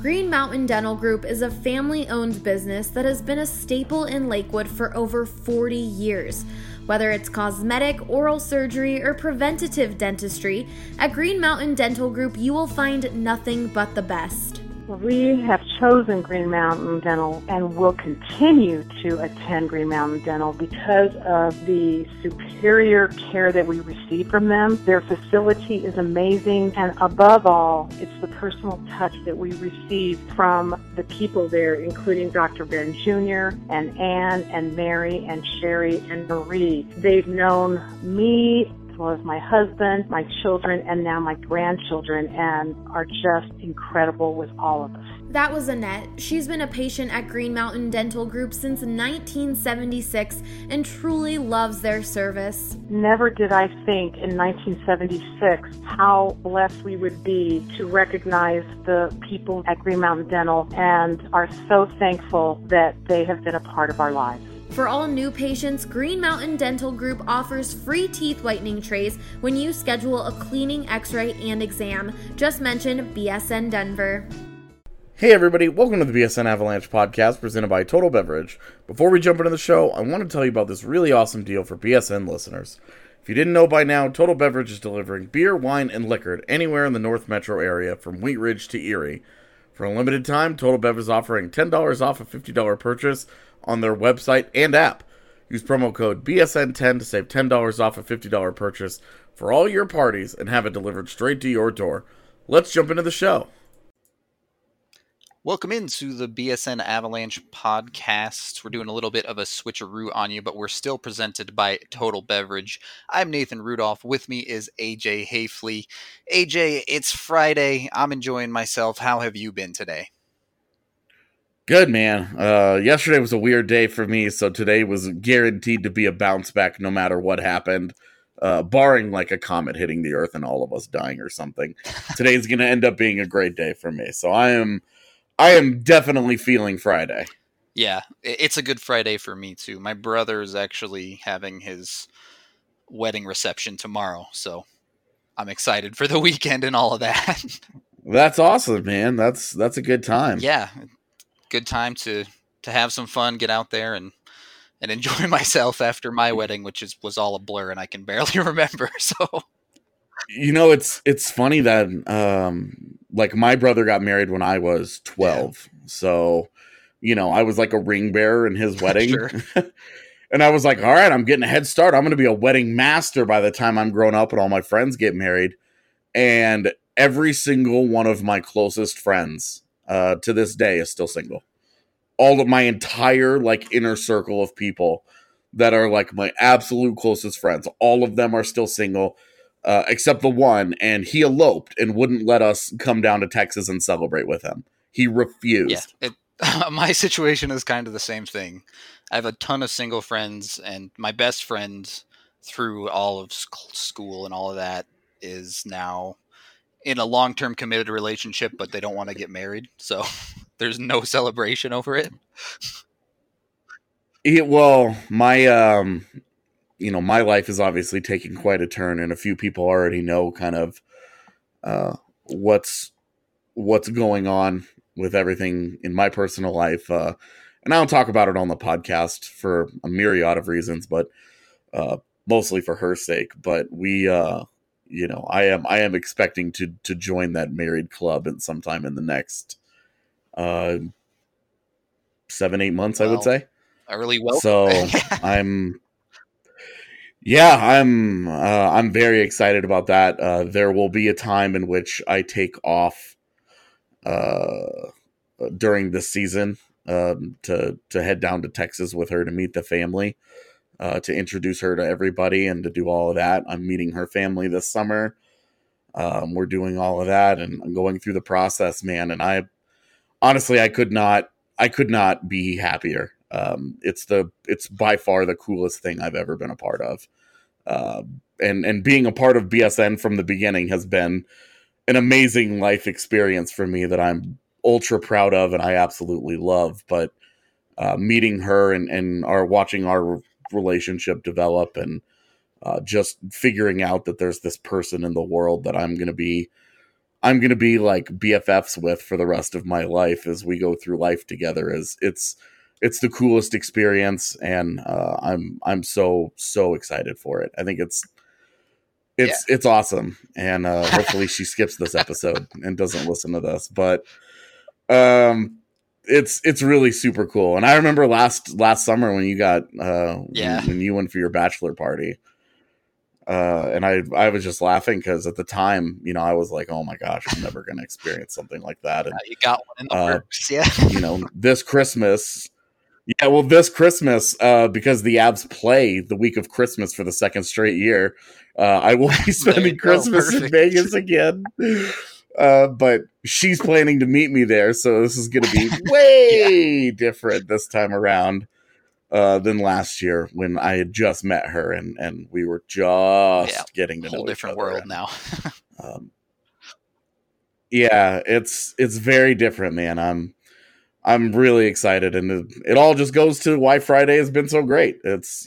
Green Mountain Dental Group is a family-owned business that has been a staple in Lakewood for over 40 years. Whether it's cosmetic, oral surgery, or preventative dentistry, at Green Mountain Dental Group you will find nothing but the best. We have chosen Green Mountain Dental and will continue to attend Green Mountain Dental because of the superior care that we receive from them. Their facility is amazing, and above all, it's the personal touch that we receive from the people there, including Dr. Ben Jr. and Ann and Mary and Sherry and Marie. They've known me as well as my husband, my children, and now my grandchildren, and are just incredible with all of us. That was Annette. She's been a patient at Green Mountain Dental Group since 1976 and truly loves their service. Never did I think in 1976 how blessed we would be to recognize the people at Green Mountain Dental, and are so thankful that they have been a part of our lives. For all new patients, Green Mountain Dental Group offers free teeth whitening trays when you schedule a cleaning, x-ray, and exam. Just mention BSN Denver. Hey everybody, welcome to the BSN Avalanche podcast presented by Total Beverage. Before we jump into the show, I want to tell you about this really awesome deal for BSN listeners. If you didn't know by now, Total Beverage is delivering beer, wine, and liquor anywhere in the North Metro area from Wheat Ridge to Erie. For a limited time, Total Beverage is offering $10 off a $50 purchase on their website and app. Use promo code BSN10 to save $10 off a $50 purchase for all your parties and have it delivered straight to your door. Let's jump into the show. Welcome into the BSN Avalanche podcast. We're doing a little bit of a switcheroo on you, but we're still presented by Total Beverage. I'm Nathan Rudolph. With me is AJ Hayfley. AJ, it's Friday. I'm enjoying myself. How have you been today? Good, man. Yesterday was a weird day for me, so today was guaranteed to be a bounce back no matter what happened, barring like a comet hitting the earth and all of us dying or something. Today's going to end up being a great day for me, so I am definitely feeling Friday. Yeah, it's a good Friday for me too. My brother is actually having his wedding reception tomorrow, so I'm excited for the weekend and all of that. That's awesome, man. That's a good time. Yeah. Good time to have some fun, get out there and enjoy myself after my wedding, which was all a blur and I can barely remember. So, you know, it's funny that like my brother got married when I was 12. Yeah. So, you know, I was like a ring bearer in his wedding. Sure. And I was like, all right, I'm getting a head start. I'm going to be a wedding master by the time I'm grown up and all my friends get married. And every single one of my closest friends to this day is still single. All of my entire like inner circle of people that are like my absolute closest friends, all of them are still single, except the one, and he eloped and wouldn't let us come down to Texas and celebrate with him. He refused. Yeah, my situation is kind of the same thing. I have a ton of single friends, and my best friend through all of school and all of that is now in a long-term committed relationship, but they don't want to get married. So there's no celebration over it. Well, my, my life is obviously taking quite a turn, and a few people already know kind of what's going on with everything in my personal life. And I don't talk about it on the podcast for a myriad of reasons, but mostly for her sake. But we, I am expecting to join that married club in sometime in the next 7-8 months, I would say. Early welcome. So I'm very excited about that. There will be a time in which I take off during this season to head down to Texas with her to meet the family. To introduce her to everybody and to do all of that. I'm meeting her family this summer. We're doing all of that and I'm going through the process, man. And I could not be happier. It's by far the coolest thing I've ever been a part of. And being a part of BSN from the beginning has been an amazing life experience for me that I'm ultra proud of and I absolutely love. But meeting her and watching our relationship develop and just figuring out that there's this person in the world that I'm going to be I'm going to be like BFFs with for the rest of my life as we go through life together. It's the coolest experience, and I'm so excited for it. I think it's awesome, and hopefully she skips this episode and doesn't listen to this. But it's really super cool. And I remember last summer when you got when you went for your bachelor party. And I was just laughing because at the time, I was like, oh my gosh, I'm never going to experience something like that. And you got one in the works, yeah. This Christmas, because the Avs play the week of Christmas for the second straight year, I will be spending Christmas in Vegas again. But she's planning to meet me there, so this is going to be way different this time around. Than last year when I had just met her and we were just getting to know each other. Whole different world now. It's very different, man. I'm really excited, and it all just goes to why Friday has been so great. It's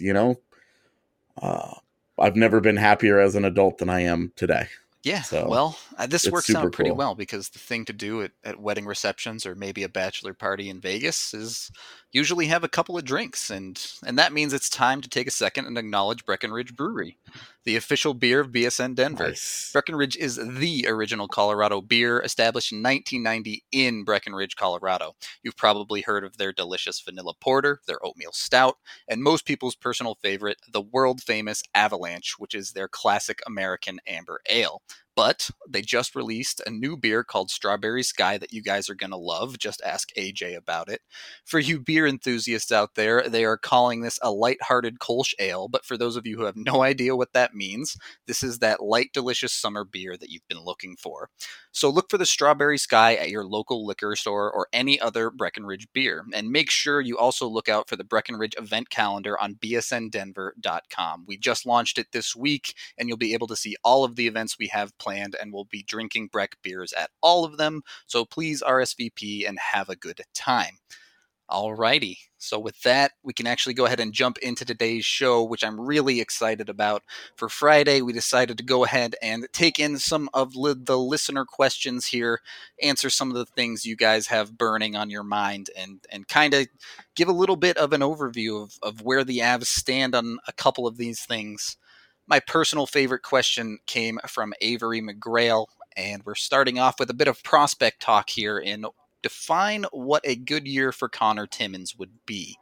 I've never been happier as an adult than I am today. Yeah, so well, this works out pretty cool. well because the thing to do at wedding receptions or maybe a bachelor party in Vegas is usually have a couple of drinks, and that means it's time to take a second and acknowledge Breckenridge Brewery, the official beer of BSN Denver. Nice. Breckenridge is the original Colorado beer, established in 1990 in Breckenridge, Colorado. You've probably heard of their delicious vanilla porter, their oatmeal stout, and most people's personal favorite, the world-famous Avalanche, which is their classic American amber ale. But they just released a new beer called Strawberry Sky that you guys are going to love. Just ask AJ about it. For you beer enthusiasts out there, they are calling this a lighthearted Kolsch ale. But for those of you who have no idea what that means, this is that light, delicious summer beer that you've been looking for. So look for the Strawberry Sky at your local liquor store or any other Breckenridge beer. And make sure you also look out for the Breckenridge event calendar on bsndenver.com. We just launched it this week, and you'll be able to see all of the events we have planned, and we'll be drinking Breck beers at all of them. So please RSVP and have a good time. Alrighty, so with that, we can actually go ahead and jump into today's show, which I'm really excited about. For Friday, we decided to go ahead and take in some of the listener questions here, answer some of the things you guys have burning on your mind, and kind of give a little bit of an overview of where the Avs stand on a couple of these things. My personal favorite question came from Avery McGrail, and we're starting off with a bit of prospect talk here in define what a good year for Connor Timmins would be.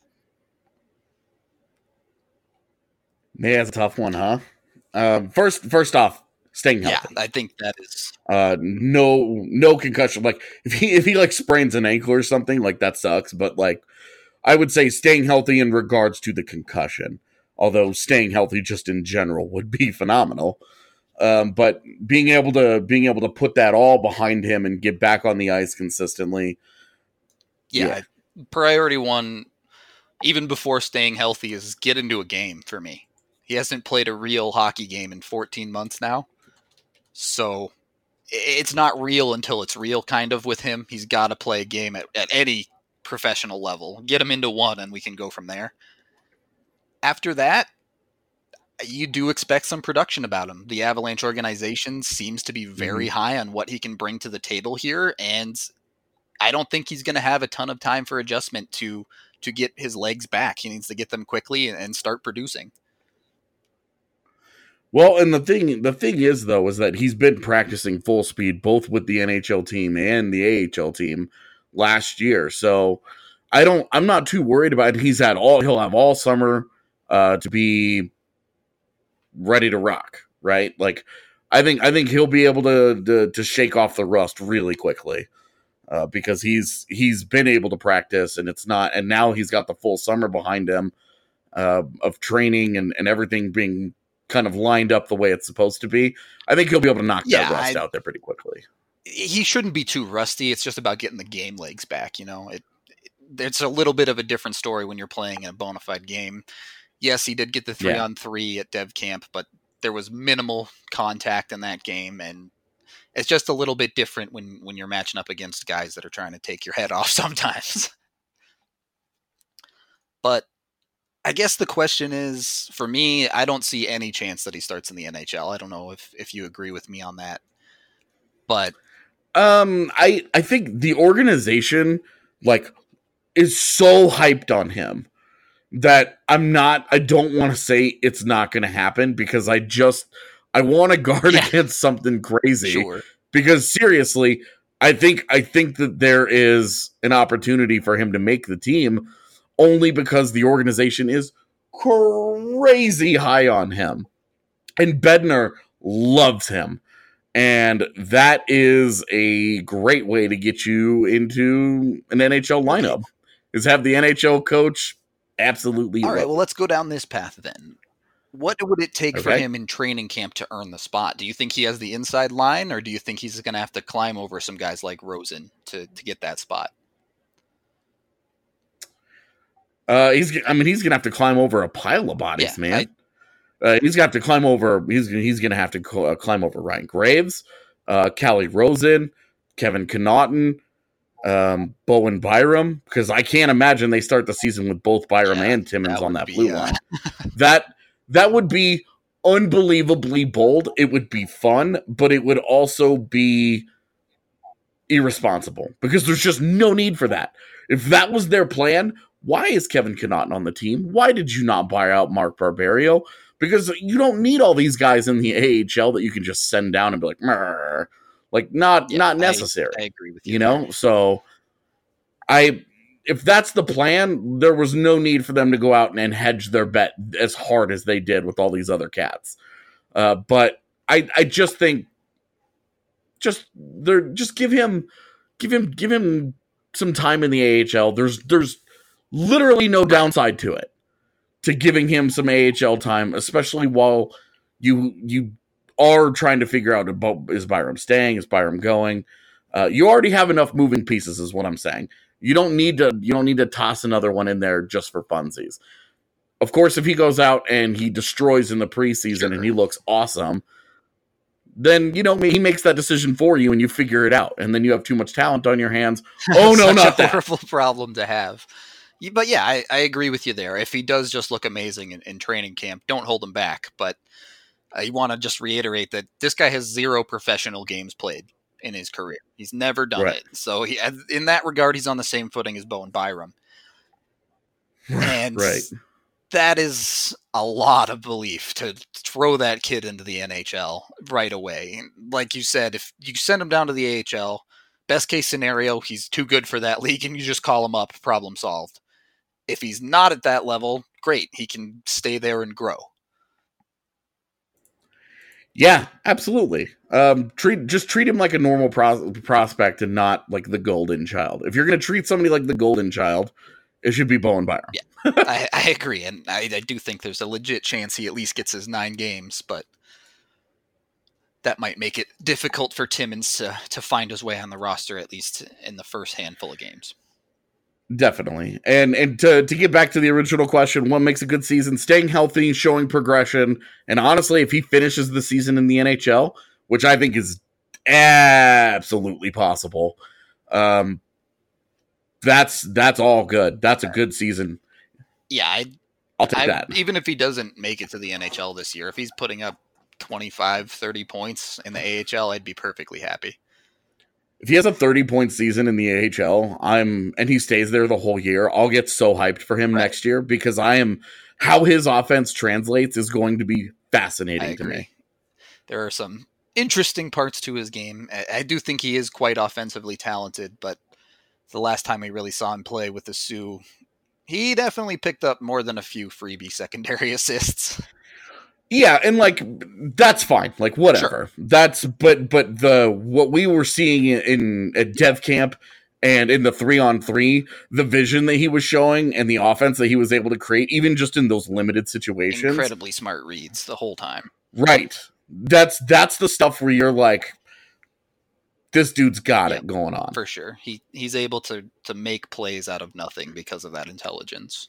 Yeah, that's a tough one, huh? First off, staying healthy. Yeah, I think that is no concussion. Like if he like sprains an ankle or something, like that sucks. But like I would say staying healthy in regards to the concussion. Although staying healthy just in general would be phenomenal. But being able to put that all behind him and get back on the ice consistently. Yeah. Priority one, even before staying healthy, is get into a game for me. He hasn't played a real hockey game in 14 months now. So it's not real until it's real, kind of, with him. He's got to play a game at any professional level. Get him into one, and we can go from there. After that, you do expect some production about him. The Avalanche organization seems to be very high on what he can bring to the table here, and I don't think he's going to have a ton of time for adjustment to get his legs back. He needs to get them quickly and start producing. Well, and the thing is, though, is that he's been practicing full speed both with the NHL team and the AHL team last year. So I'm not too worried about it. He'll have all summer to be ready to rock, right? Like I think he'll be able to shake off the rust really quickly because he's been able to practice, and now he's got the full summer behind him of training and everything being kind of lined up the way it's supposed to be. I think he'll be able to knock that rust out there pretty quickly. He shouldn't be too rusty. It's just about getting the game legs back. It's a little bit of a different story when you're playing in a bona fide game. Yes, he did get the 3-on-3 at Dev Camp, but there was minimal contact in that game, and it's just a little bit different when you're matching up against guys that are trying to take your head off sometimes. But I guess the question is, for me, I don't see any chance that he starts in the NHL. I don't know if you agree with me on that. But I think the organization like is so hyped on him that I don't want to say it's not going to happen because I want to guard against something crazy. Sure. Because seriously, I think that there is an opportunity for him to make the team only because the organization is crazy high on him. And Bednar loves him. And that is a great way to get you into an NHL lineup, is have the NHL coach absolutely. All right, well, let's go down this path then. What would it take for him in training camp to earn the spot? Do you think he has the inside line, or do you think he's going to have to climb over some guys like Rosen to get that spot? He's going to have to climb over a pile of bodies, man. He's going to have to climb over. He's going to have to climb over Ryan Graves, Calle Rosen, Kevin Connauton, Bowen Byram, because I can't imagine they start the season with both Byram and Timmins on that blue line. That would be unbelievably bold. It would be fun, but it would also be irresponsible because there's just no need for that. If that was their plan, why is Kevin Connauton on the team? Why did you not buy out Mark Barberio? Because you don't need all these guys in the AHL that you can just send down and be like, Murr. Like not necessary. I agree with you. You know, so if that's the plan, there was no need for them to go out and hedge their bet as hard as they did with all these other cats. But I just think just give him some time in the AHL. There's literally no downside to it, to giving him some AHL time, especially while you are trying to figure out about, is Byram staying, is Byram going? You already have enough moving pieces, is what I'm saying. You don't need to toss another one in there just for funsies. Of course, if he goes out and he destroys in the preseason and he looks awesome, then he makes that decision for you and you figure it out, and then you have too much talent on your hands. Oh no, not that. Horrible problem to have. But yeah, I agree with you there. If he does just look amazing in training camp, don't hold him back. But I want to just reiterate that this guy has 0 professional games played in his career. He's never done it. So in that regard, he's on the same footing as Bowen Byram. And that is a lot of belief to throw that kid into the NHL right away. Like you said, if you send him down to the AHL, best case scenario, he's too good for that league and you just call him up, problem solved. If he's not at that level, great. He can stay there and grow. Yeah, absolutely. Treat him like a normal prospect and not like the golden child. If you're going to treat somebody like the golden child, it should be Bowen Byram. Yeah, I agree. And I do think there's a legit chance he at least gets his 9 games, but that might make it difficult for Timmins to find his way on the roster, at least in the first handful of games. Definitely. And to get back to the original question, what makes a good season? Staying healthy, showing progression. And honestly, if he finishes the season in the NHL, which I think is absolutely possible, that's all good. That's a good season. Yeah, I'll take that. Even if he doesn't make it to the NHL this year, if he's putting up 25, 30 points in the AHL, I'd be perfectly happy. If he has a 30-point season in the AHL, and he stays there the whole year, I'll get so hyped for him next year because how his offense translates is going to be fascinating to me. There are some interesting parts to his game. I do think he is quite offensively talented, but the last time we really saw him play with the Sioux, he definitely picked up more than a few freebie secondary assists. Yeah, and that's fine. Whatever. Sure. But what we were seeing at Dev Camp and in the 3-on-3, the vision that he was showing and the offense that he was able to create, even just in those limited situations, incredibly smart reads the whole time. Right. That's the stuff where you're like, this dude's got it going on. For sure. He's able to make plays out of nothing because of that intelligence.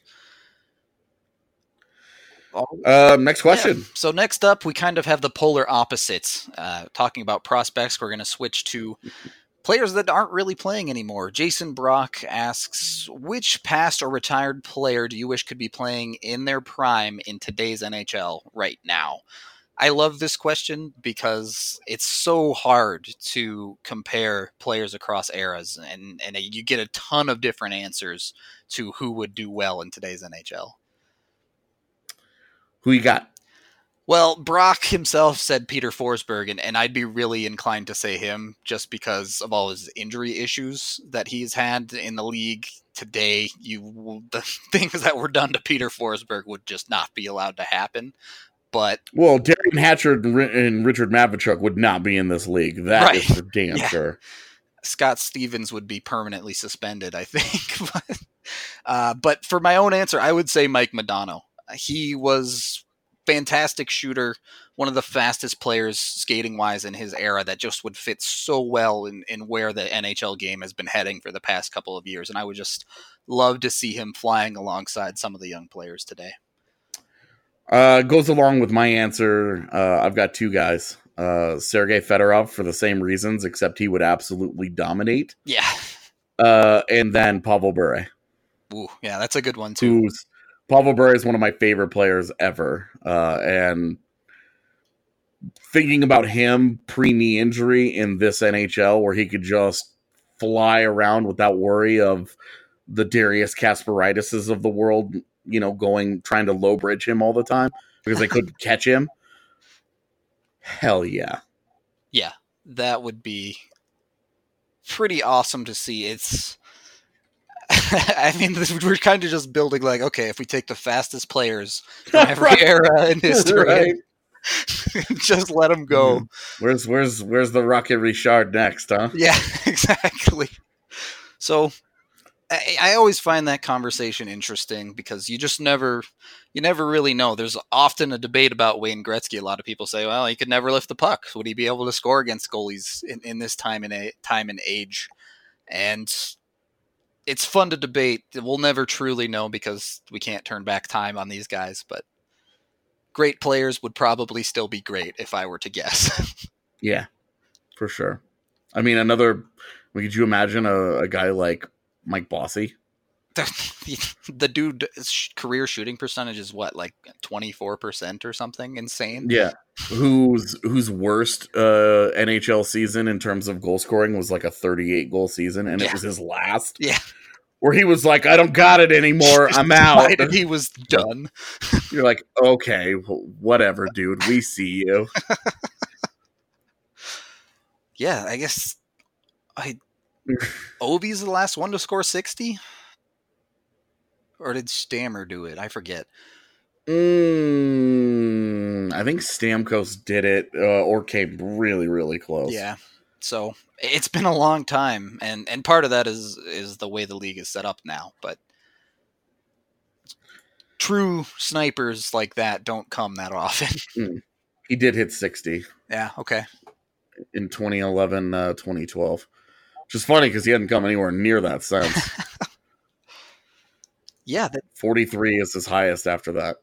Next question. Yeah. So next up, we kind of have the polar opposites. Talking about prospects, we're going to switch to players that aren't really playing anymore. Jason Brock asks, which past or retired player do you wish could be playing in their prime in today's NHL right now? I love this question because it's so hard to compare players across eras, and you get a ton of different answers to who would do well in today's NHL. Who you got? Well, Brock himself said Peter Forsberg, and I'd be really inclined to say him just because of all his injury issues that he's had in the league today. The things that were done to Peter Forsberg would just not be allowed to happen. But Darian Hatcher and Richard Matvichuk would not be in this league. That is for damn sure. Scott Stevens would be permanently suspended, I think. But for my own answer, I would say Mike Modano. He was fantastic shooter, one of the fastest players skating-wise in his era that just would fit so well in where the NHL game has been heading for the past couple of years. And I would just love to see him flying alongside some of the young players today. Goes along with my answer. I've got two guys. Sergei Fedorov for the same reasons, except he would absolutely dominate. Yeah. And then Pavel Bure. Ooh, yeah, that's a good one too. Pavel Bure is one of my favorite players ever. And thinking about him pre-knee injury in this NHL where he could just fly around without worry of the Darius Kasparaitis of the world, trying to low bridge him all the time because they couldn't catch him. Hell yeah. Yeah, that would be pretty awesome to see. It's, I mean, we're kind of just building like, okay, if we take the fastest players from every era in history, right. Just let them go. Where's the Rocket Richard next, huh? Yeah, exactly. So I always find that conversation interesting because you never really know. There's often a debate about Wayne Gretzky. A lot of people say, well, he could never lift the puck. Would he be able to score against goalies in this time and age? And it's fun to debate. We'll never truly know because we can't turn back time on these guys, but great players would probably still be great if I were to guess. Yeah, for sure. I mean, could you imagine a guy like Mike Bossy? The dude's career shooting percentage is what, like 24% or something insane? Yeah. Whose worst NHL season in terms of goal scoring was like a 38 goal season, and it was his last. Yeah. Where he was like, I don't got it anymore. I'm out. And he was done. You're like, okay, whatever, dude. We see you. Yeah, I guess Ovi's the last one to score 60? Or did Stammer do it? I forget. I think Stamkos did it or came really, really close. Yeah. So it's been a long time, and part of that is the way the league is set up now. But true snipers like that don't come that often. He did hit 60. Yeah, okay. In 2011, 2012. Which is funny because he hadn't come anywhere near that since. Yeah. 43 is his highest after that.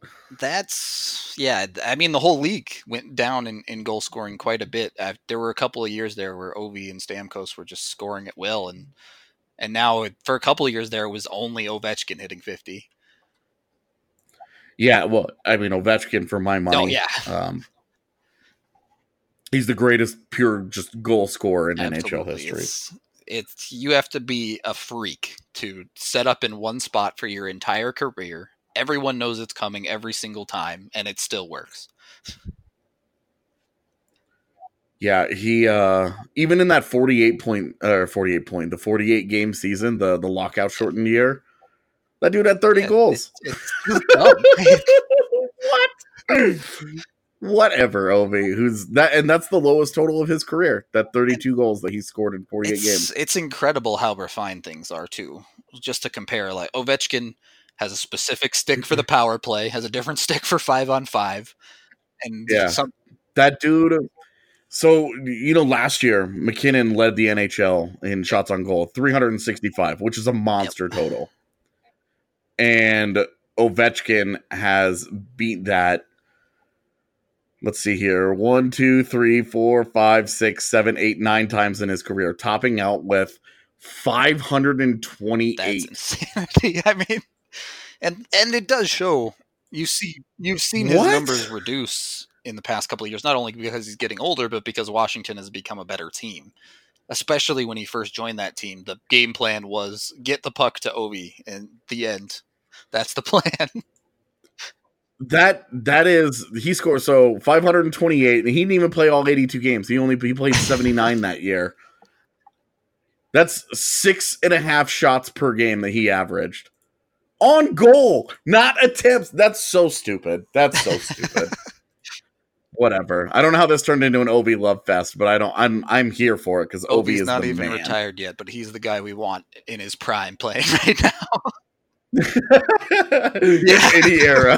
I mean, the whole league went down in goal scoring quite a bit. There were a couple of years there where Ovi and Stamkos were just scoring at will. And now for a couple of years there, it was only Ovechkin hitting 50. Yeah, well, I mean, Ovechkin for my money. Oh, yeah. He's the greatest pure just goal scorer in NHL history. It's you have to be a freak to set up in one spot for your entire career. Everyone knows it's coming every single time, and it still works. Yeah, he even in that 48 game season, the lockout shortened year, that dude had 30 goals. It's dumb. What? Whatever, Ovi. Who's that? And that's the lowest total of his career. That 32 goals that he scored in 48 games. It's incredible how refined things are too. Just to compare, like Ovechkin has a specific stick for the power play, has a different stick for 5-on-5, and that dude. So last year McKinnon led the NHL in shots on goal, 365, which is a monster total, and Ovechkin has beat that. Let's see here. 1, 2, 3, 4, 5, 6, 7, 8, 9 times in his career, topping out with 528. That's insanity. I mean, and it does show. You've seen his numbers reduce in the past couple of years, not only because he's getting older, but because Washington has become a better team. Especially when he first joined that team, the game plan was get the puck to Ovi, and the end. That's the plan. That is, he scored 528, and he didn't even play all 82 games. He played 79 that year. That's 6.5 shots per game that he averaged on goal, not attempts. That's so stupid. Whatever. I don't know how this turned into an Ovi love fest, but I'm here for it because Ovi is not the even man. Retired yet, but he's the guy we want in his prime playing right now. In any era.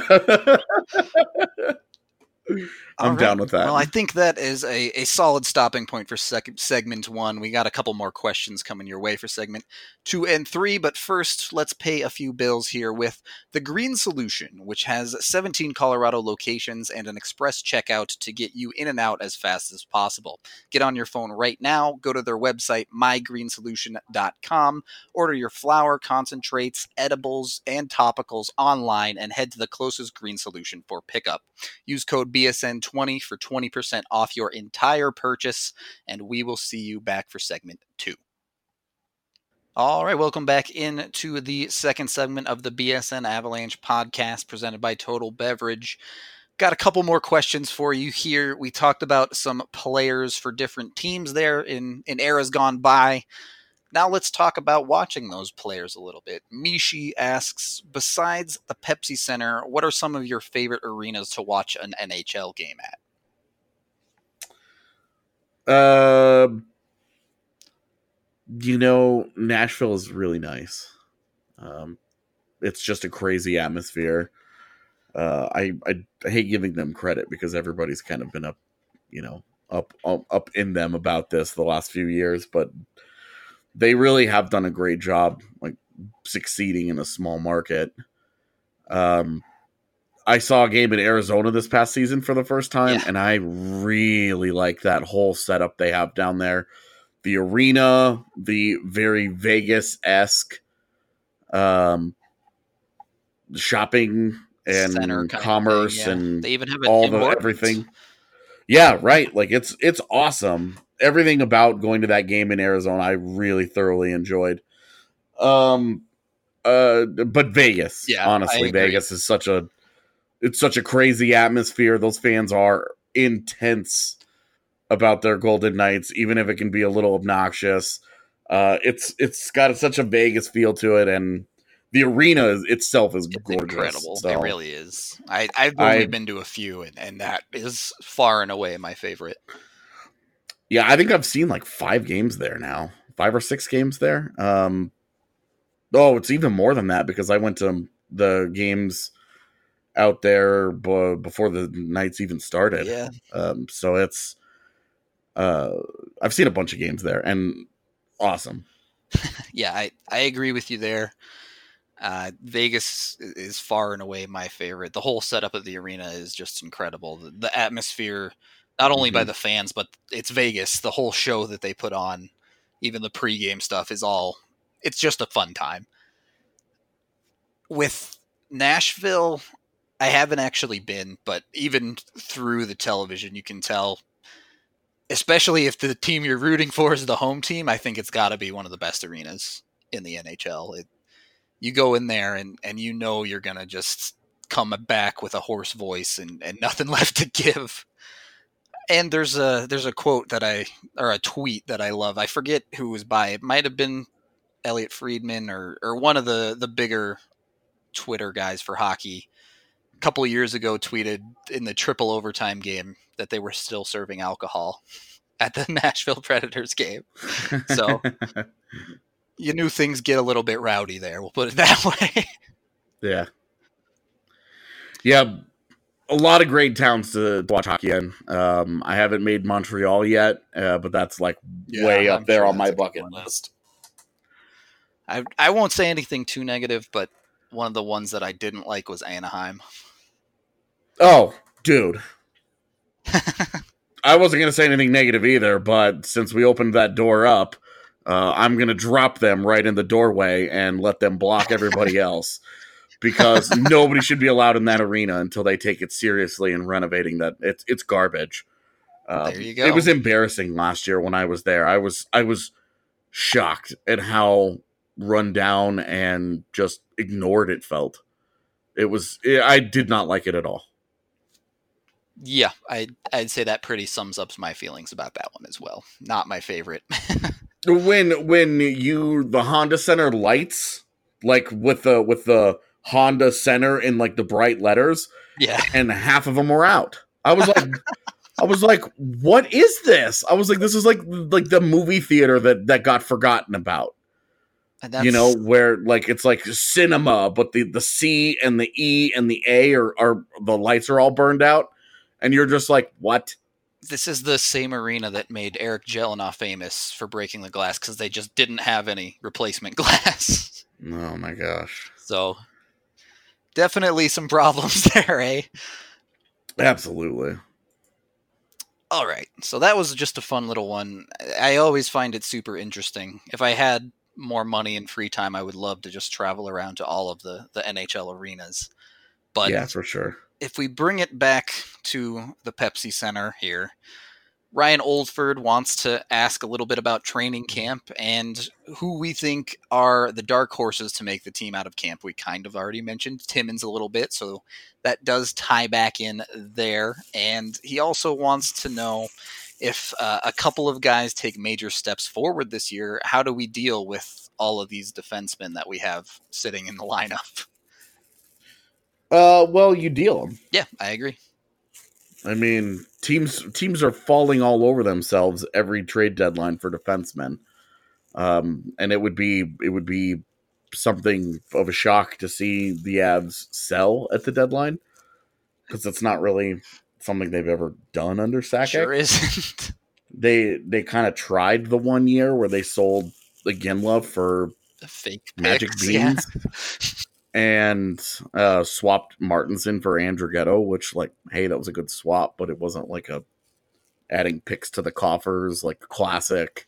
I'm down with that. Well, I think that is a solid stopping point for segment 1. We got a couple more questions coming your way for segment 2 and 3, but first, let's pay a few bills here with The Green Solution, which has 17 Colorado locations and an express checkout to get you in and out as fast as possible. Get on your phone right now, go to their website, mygreensolution.com, order your flour, concentrates, edibles, and topicals online, and head to the closest Green Solution for pickup. Use code BSN20 for 20% off your entire purchase, and we will see you back for segment 2. All right, welcome back into the second segment of the BSN Avalanche podcast presented by Total Beverage. Got a couple more questions for you here. We talked about some players for different teams there in eras gone by. Now let's talk about watching those players a little bit. Mishi asks, besides the Pepsi Center, what are some of your favorite arenas to watch an NHL game at? Nashville is really nice. It's just a crazy atmosphere. I hate giving them credit because everybody's kind of been up in them about this the last few years, but they really have done a great job, like succeeding in a small market. I saw a game in Arizona this past season for the first time, and I really like that whole setup they have down there. The arena, the very Vegas-esque shopping and commerce, and they even have everything. Yeah, right. Like it's awesome. Everything about going to that game in Arizona, I really thoroughly enjoyed. But Vegas, honestly, Vegas is such a crazy atmosphere. Those fans are intense about their Golden Knights, even if it can be a little obnoxious. It's got such a Vegas feel to it, and the arena itself is gorgeous. Incredible. So, it really is. I've only been to a few, and that is far and away my favorite. Yeah, I think I've seen like 5 games there now. 5 or 6 games there. It's even more than that because I went to the games out there before the Knights even started. Yeah. So it's I've seen a bunch of games there, and awesome. Yeah, I agree with you there. Vegas is far and away my favorite. The whole setup of the arena is just incredible. The atmosphere, not only by the fans, but it's Vegas. The whole show that they put on, even the pregame stuff it's just a fun time. With Nashville, I haven't actually been, but even through the television, you can tell, especially if the team you're rooting for is the home team, I think it's got to be one of the best arenas in the NHL. You go in there and you're going to just come back with a hoarse voice and nothing left to give. And there's a quote or a tweet that I love. I forget who was by. It might have been Elliot Friedman or one of the bigger Twitter guys for hockey. A couple of years ago tweeted in the triple overtime game that they were still serving alcohol at the Nashville Predators game. So you knew things get a little bit rowdy there. We'll put it that way. Yeah. Yeah. A lot of great towns to watch hockey in. I haven't made Montreal yet, but that's like way up there on my bucket list. I won't say anything too negative, but one of the ones that I didn't like was Anaheim. Oh, dude. I wasn't going to say anything negative either, but since we opened that door up, I'm going to drop them right in the doorway and let them block everybody else. because nobody should be allowed in that arena until they take it seriously and renovating that. It's garbage. There you go. It was embarrassing last year when I was there. I was shocked at how run down and just ignored it felt. I did not like it at all. Yeah, I'd say that pretty sums up my feelings about that one as well. Not my favorite. When the Honda Center lights, like with the Honda Center in like the bright letters, yeah, and half of them were out. I was like, what is this? I was like, this is like the movie theater that got forgotten about. And where like it's like cinema, but the C and the E and the A are the lights are all burned out, and you're just like, what? This is the same arena that made Eric Jelena famous for breaking the glass because they just didn't have any replacement glass. Oh my gosh. So definitely some problems there, eh? Absolutely. All right. So that was just a fun little one. I always find it super interesting. If I had more money and free time, I would love to just travel around to all of the NHL arenas. But yeah, for sure. If we bring it back to the Pepsi Center here, Ryan Oldford wants to ask a little bit about training camp and who we think are the dark horses to make the team out of camp. We kind of already mentioned Timmins a little bit, so that does tie back in there. And he also wants to know if a couple of guys take major steps forward this year, how do we deal with all of these defensemen that we have sitting in the lineup? Well, you deal them. Yeah, I agree. I mean, teams are falling all over themselves every trade deadline for defensemen, and it would be something of a shock to see the Avs sell at the deadline because it's not really something they've ever done under Sakic. Sure isn't. They kind of tried the 1 year where they sold the Ginla for the fake Magic picks, Beans. Yeah. And swapped Martinson for Andrighetto, which, like, hey, that was a good swap, but it wasn't like adding picks to the coffers, like classic,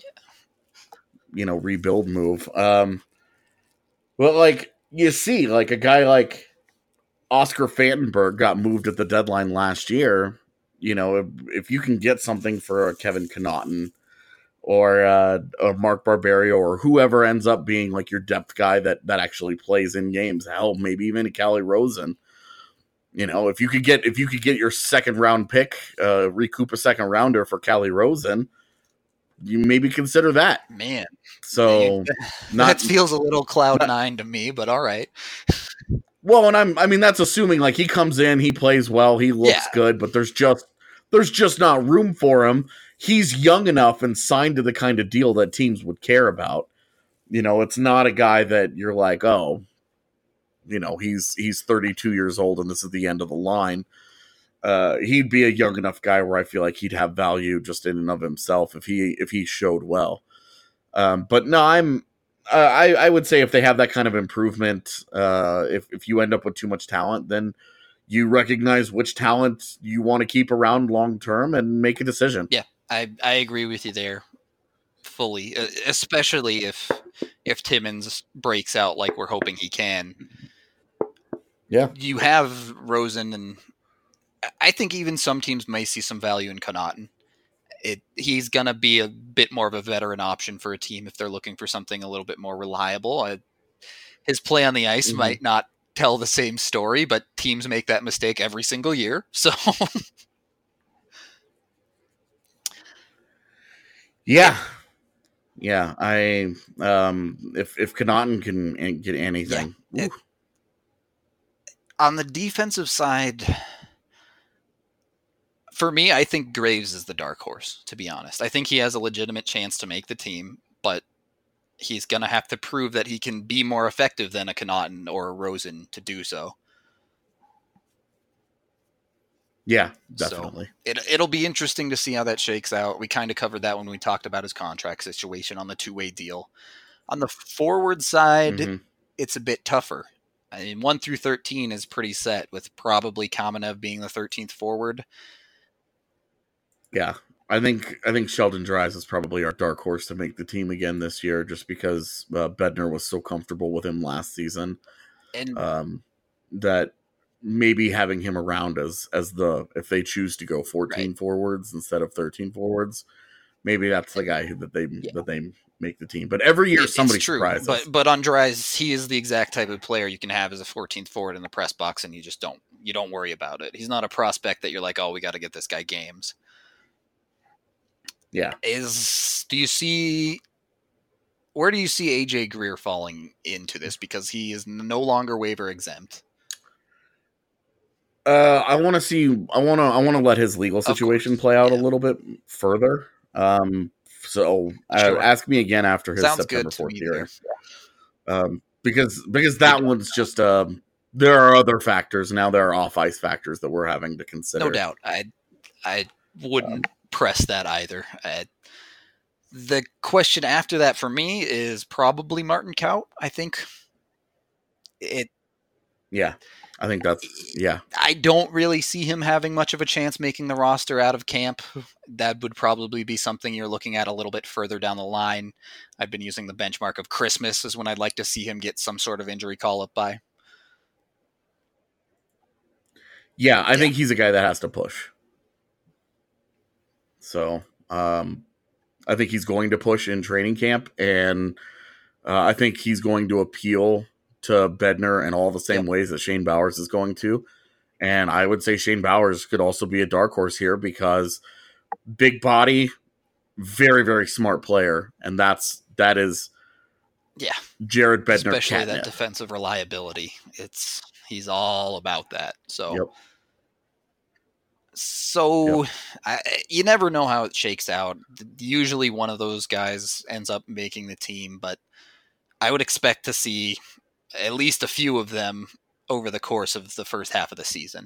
rebuild move. Well, like, you see, like, a guy like Oscar Fantenberg got moved at the deadline last year. If you can get something for a Kevin Connaughton or a Mark Barberio or whoever ends up being like your depth guy that actually plays in games. Hell, maybe even a Calle Rosen. If you could get your second round pick, recoup a second rounder for Calle Rosen, you maybe consider that. Man, so that feels a little Cloud9 to me, but all right. Well, and that's assuming like he comes in, he plays well, he looks good, but there's just not room for him. He's young enough and signed to the kind of deal that teams would care about. It's not a guy that you're like, oh, he's 32 years old and this is the end of the line. He'd be a young enough guy where I feel like he'd have value just in and of himself if he showed well. But no, I would say if they have that kind of improvement, if you end up with too much talent, then you recognize which talent you want to keep around long term and make a decision. Yeah. I agree with you there fully, especially if Timmins breaks out like we're hoping he can. Yeah. You have Rosen, and I think even some teams may see some value in Connaughton. He's going to be a bit more of a veteran option for a team if they're looking for something a little bit more reliable. His play on the ice might not tell the same story, but teams make that mistake every single year. So... Yeah. If Connaughton can get anything. Yeah. On the defensive side, for me, I think Graves is the dark horse, to be honest. I think he has a legitimate chance to make the team, but he's going to have to prove that he can be more effective than a Connaughton or a Rosen to do so. Yeah, definitely. So it'll be interesting to see how that shakes out. We kind of covered that when we talked about his contract situation on the two-way deal. On the forward side, it's a bit tougher. I mean, 1 through 13 is pretty set, with probably Kamenev being the 13th forward. Yeah, I think Sheldon Dries is probably our dark horse to make the team again this year, just because Bednar was so comfortable with him last season. And that maybe having him around as if they choose to go 14 right. forwards instead of 13 forwards, maybe that's the guy that they make the team. But every year somebody surprises us. But on Dries, he is the exact type of player you can have as a 14th forward in the press box, and you don't worry about it. He's not a prospect that you're like, oh, we got to get this guy games. Yeah. Where do you see AJ Greer falling into this? Because he is no longer waiver exempt. I want to let his legal situation play out a little bit further. So ask me again after his September 4th hearing. Because that one's just there are other factors now. There are off ice factors that we're having to consider. No doubt, I wouldn't press that either. The question after that for me is probably Martin Kaut. I think Yeah, I think I don't really see him having much of a chance making the roster out of camp. That would probably be something you're looking at a little bit further down the line. I've been using the benchmark of Christmas as when I'd like to see him get some sort of injury call up by. Yeah, I think he's a guy that has to push. So, I think he's going to push in training camp, and I think he's going to appeal to Bednar in all the same ways that Shane Bowers is going to. And I would say Shane Bowers could also be a dark horse here because big body, very, very smart player. And that is Jared Bednar. Especially catnip. That defensive reliability. He's all about that. So, you never know how it shakes out. Usually one of those guys ends up making the team, but I would expect to see at least a few of them over the course of the first half of the season.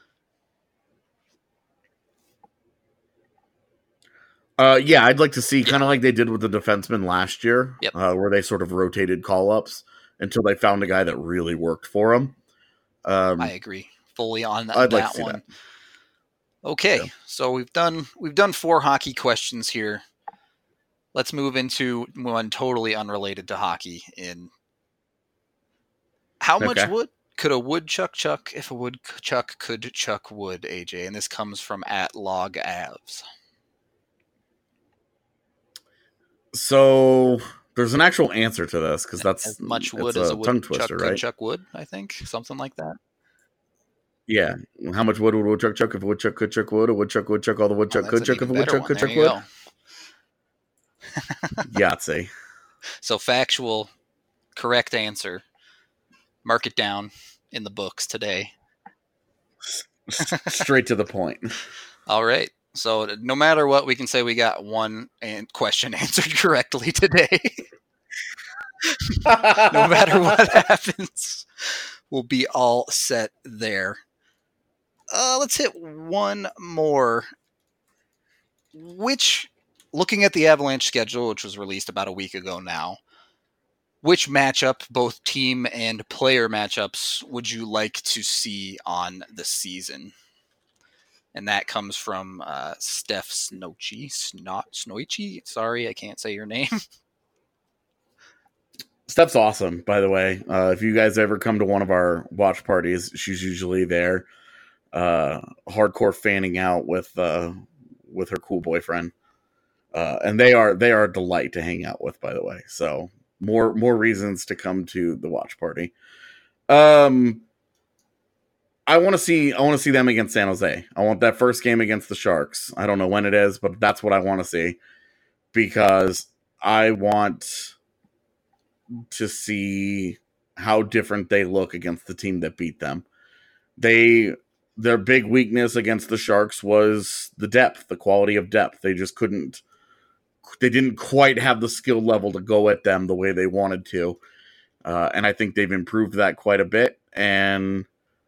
I'd like to see kind of like they did with the defensemen last year, where they sort of rotated call-ups until they found a guy that really worked for them. I agree fully on that. I'd like to see one. that. Okay, so we've done 4 hockey questions here. Let's move into one totally unrelated to hockey. In how much wood could a woodchuck chuck if a woodchuck could chuck wood, AJ? And this comes from @logavs. So there's an actual answer to this because that's as much wood as a woodchuck could chuck wood. I think something like that. Yeah. How much wood would a woodchuck chuck if a woodchuck could chuck wood? A woodchuck would chuck all the woodchuck could chuck if a woodchuck could chuck wood. Yahtzee. So factual, correct answer. Mark it down in the books today. Straight to the point. All right. So no matter what, we can say we got one question answered correctly today. No matter what happens, we'll be all set there. Let's hit one more. Looking at the Avalanche schedule, which was released about a week ago now, which matchup, both team and player matchups, would you like to see on the season? And that comes from Steph Snoichi. Sorry, I can't say your name. Steph's awesome, by the way. If you guys ever come to one of our watch parties, she's usually there, hardcore fanning out with her cool boyfriend, and they are a delight to hang out with, by the way. So more reasons to come to the watch party. I want to see them against San Jose. I want that first game against the Sharks. I don't know when it is, but that's what I want to see because I want to see how different they look against the team that beat them. Their big weakness against the Sharks was the depth, the quality of depth. They just didn't quite have the skill level to go at them the way they wanted to. And I think they've improved that quite a bit. And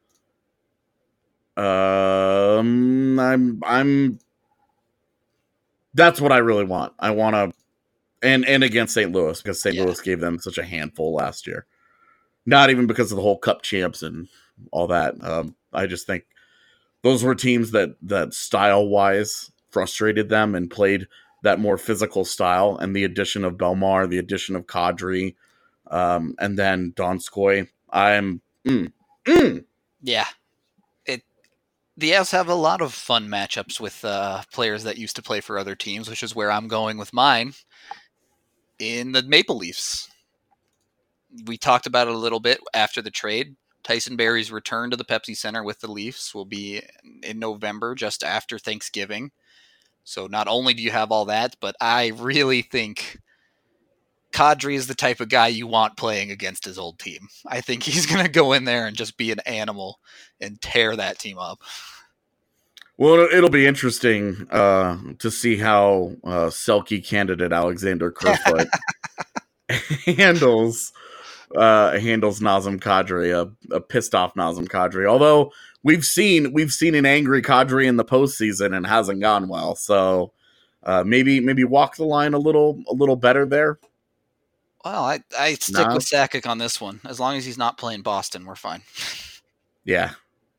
that's what I really want. I want to, and against St. Louis, because St. Louis gave them such a handful last year. Not even because of the whole cup champs and all that. I just think those were teams that style wise frustrated them and played that more physical style. And the addition of Belmar, the addition of Kadri, and then Donskoy, I'm. Mm. Yeah. The Avs have a lot of fun matchups with players that used to play for other teams, which is where I'm going with mine in the Maple Leafs. We talked about it a little bit after the trade. Tyson Barrie's return to the Pepsi Center with the Leafs will be in November, just after Thanksgiving. So not only do you have all that, but I really think Kadri is the type of guy you want playing against his old team. I think he's going to go in there and just be an animal and tear that team up. Well, it'll be interesting to see how Selke candidate Alexander Kerfoot handles Nazem Kadri, a pissed off Nazem Kadri. Although we've seen an angry Kadri in the postseason and hasn't gone well. So maybe walk the line a little better there. Well, I stick with Sakic on this one. As long as he's not playing Boston, we're fine. Yeah.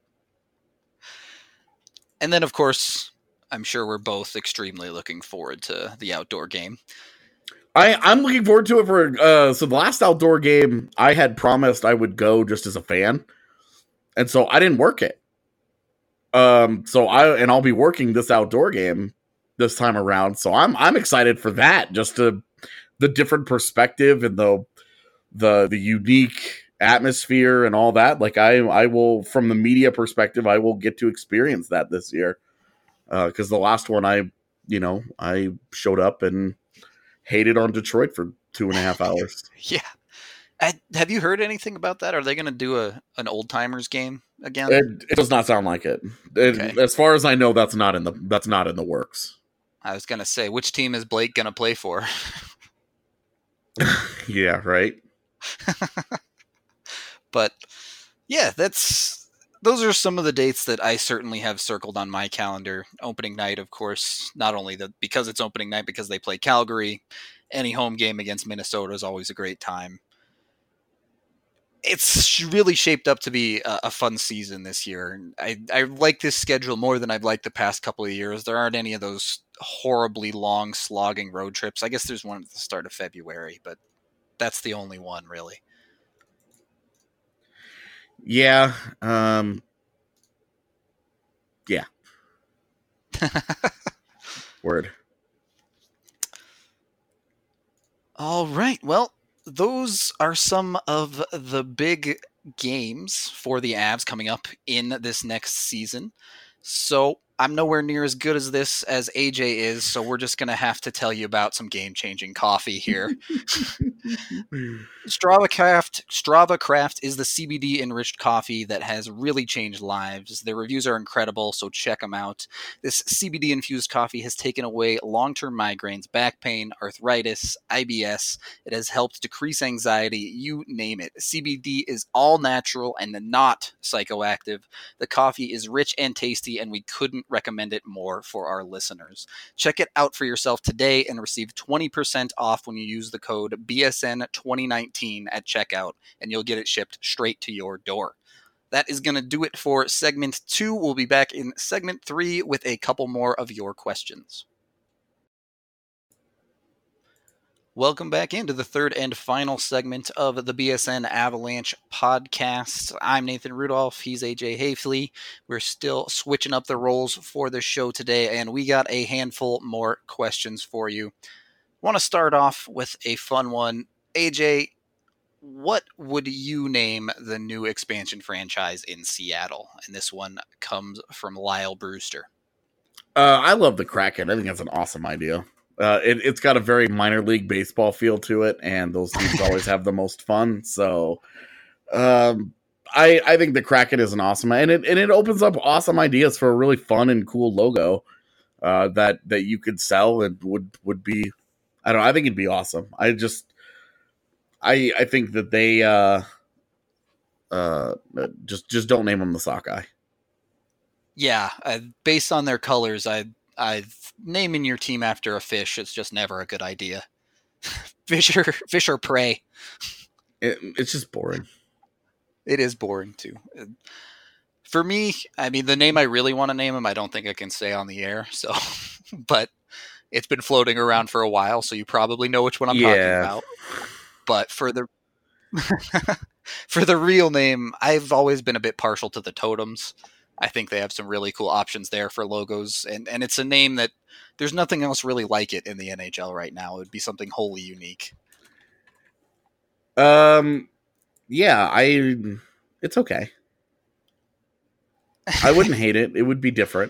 And then, of course, I'm sure we're both extremely looking forward to the outdoor game. I'm looking forward to it for so the last outdoor game I had promised I would go just as a fan, and so I didn't work it. I'll be working this outdoor game this time around. So I'm excited for that. Just the different perspective and the unique atmosphere and all that. Like I will, from the media perspective, I will get to experience that this year. Because the last one I showed up and hated on Detroit for 2.5 hours. Yeah. Have you heard anything about that? Are they going to do an old timers game again? It does not sound like it. Okay. As far as I know, that's not in the works. I was going to say, which team is Blake going to play for? Yeah, right. But yeah, those are some of the dates that I certainly have circled on my calendar. Opening night, of course, not only because it's opening night, because they play Calgary. Any home game against Minnesota is always a great time. It's really shaped up to be a fun season this year. I like this schedule more than I've liked the past couple of years. There aren't any of those horribly long, slogging road trips. I guess there's one at the start of February, but that's the only one, really. Yeah. Yeah. Word. All right. Well, those are some of the big games for the Avs coming up in this next season. So I'm nowhere near as good as this as AJ is, so we're just going to have to tell you about some game-changing coffee here. Strava Craft is the CBD-enriched coffee that has really changed lives. Their reviews are incredible, so check them out. This CBD-infused coffee has taken away long-term migraines, back pain, arthritis, IBS. It has helped decrease anxiety, you name it. CBD is all natural and not psychoactive. The coffee is rich and tasty, and we couldn't recommend it more for our listeners. Check it out for yourself today and receive 20% off when you use the code BSN2019 at checkout, and you'll get it shipped straight to your door. That is going to do it for segment 2. We'll be back in segment 3 with a couple more of your questions. Welcome back into the third and final segment of the BSN Avalanche podcast. I'm Nathan Rudolph. He's AJ Hafley. We're still switching up the roles for the show today, and we got a handful more questions for you. I want to start off with a fun one. AJ, what would you name the new expansion franchise in Seattle? And this one comes from Lyle Brewster. I love the Kraken. I think that's an awesome idea. It's got a very minor league baseball feel to it, and those teams always have the most fun. So, I think the Kraken is an awesome, and it opens up awesome ideas for a really fun and cool logo that you could sell and would be. I don't know. I think it'd be awesome. I think that they just don't name them the Sockeye. Yeah, based on their colors, naming your team after a fish is just never a good idea. Fish or prey. It's just boring. It is boring too. For me, I mean, the name I really want to name him, I don't think I can say on the air. So, but it's been floating around for a while, so you probably know which one I'm talking about. But for the For the real name, I've always been a bit partial to the Totems. I think they have some really cool options there for logos, and it's a name that there's nothing else really like it in the NHL right now. It would be something wholly unique. Yeah, it's okay. I wouldn't hate it. It would be different.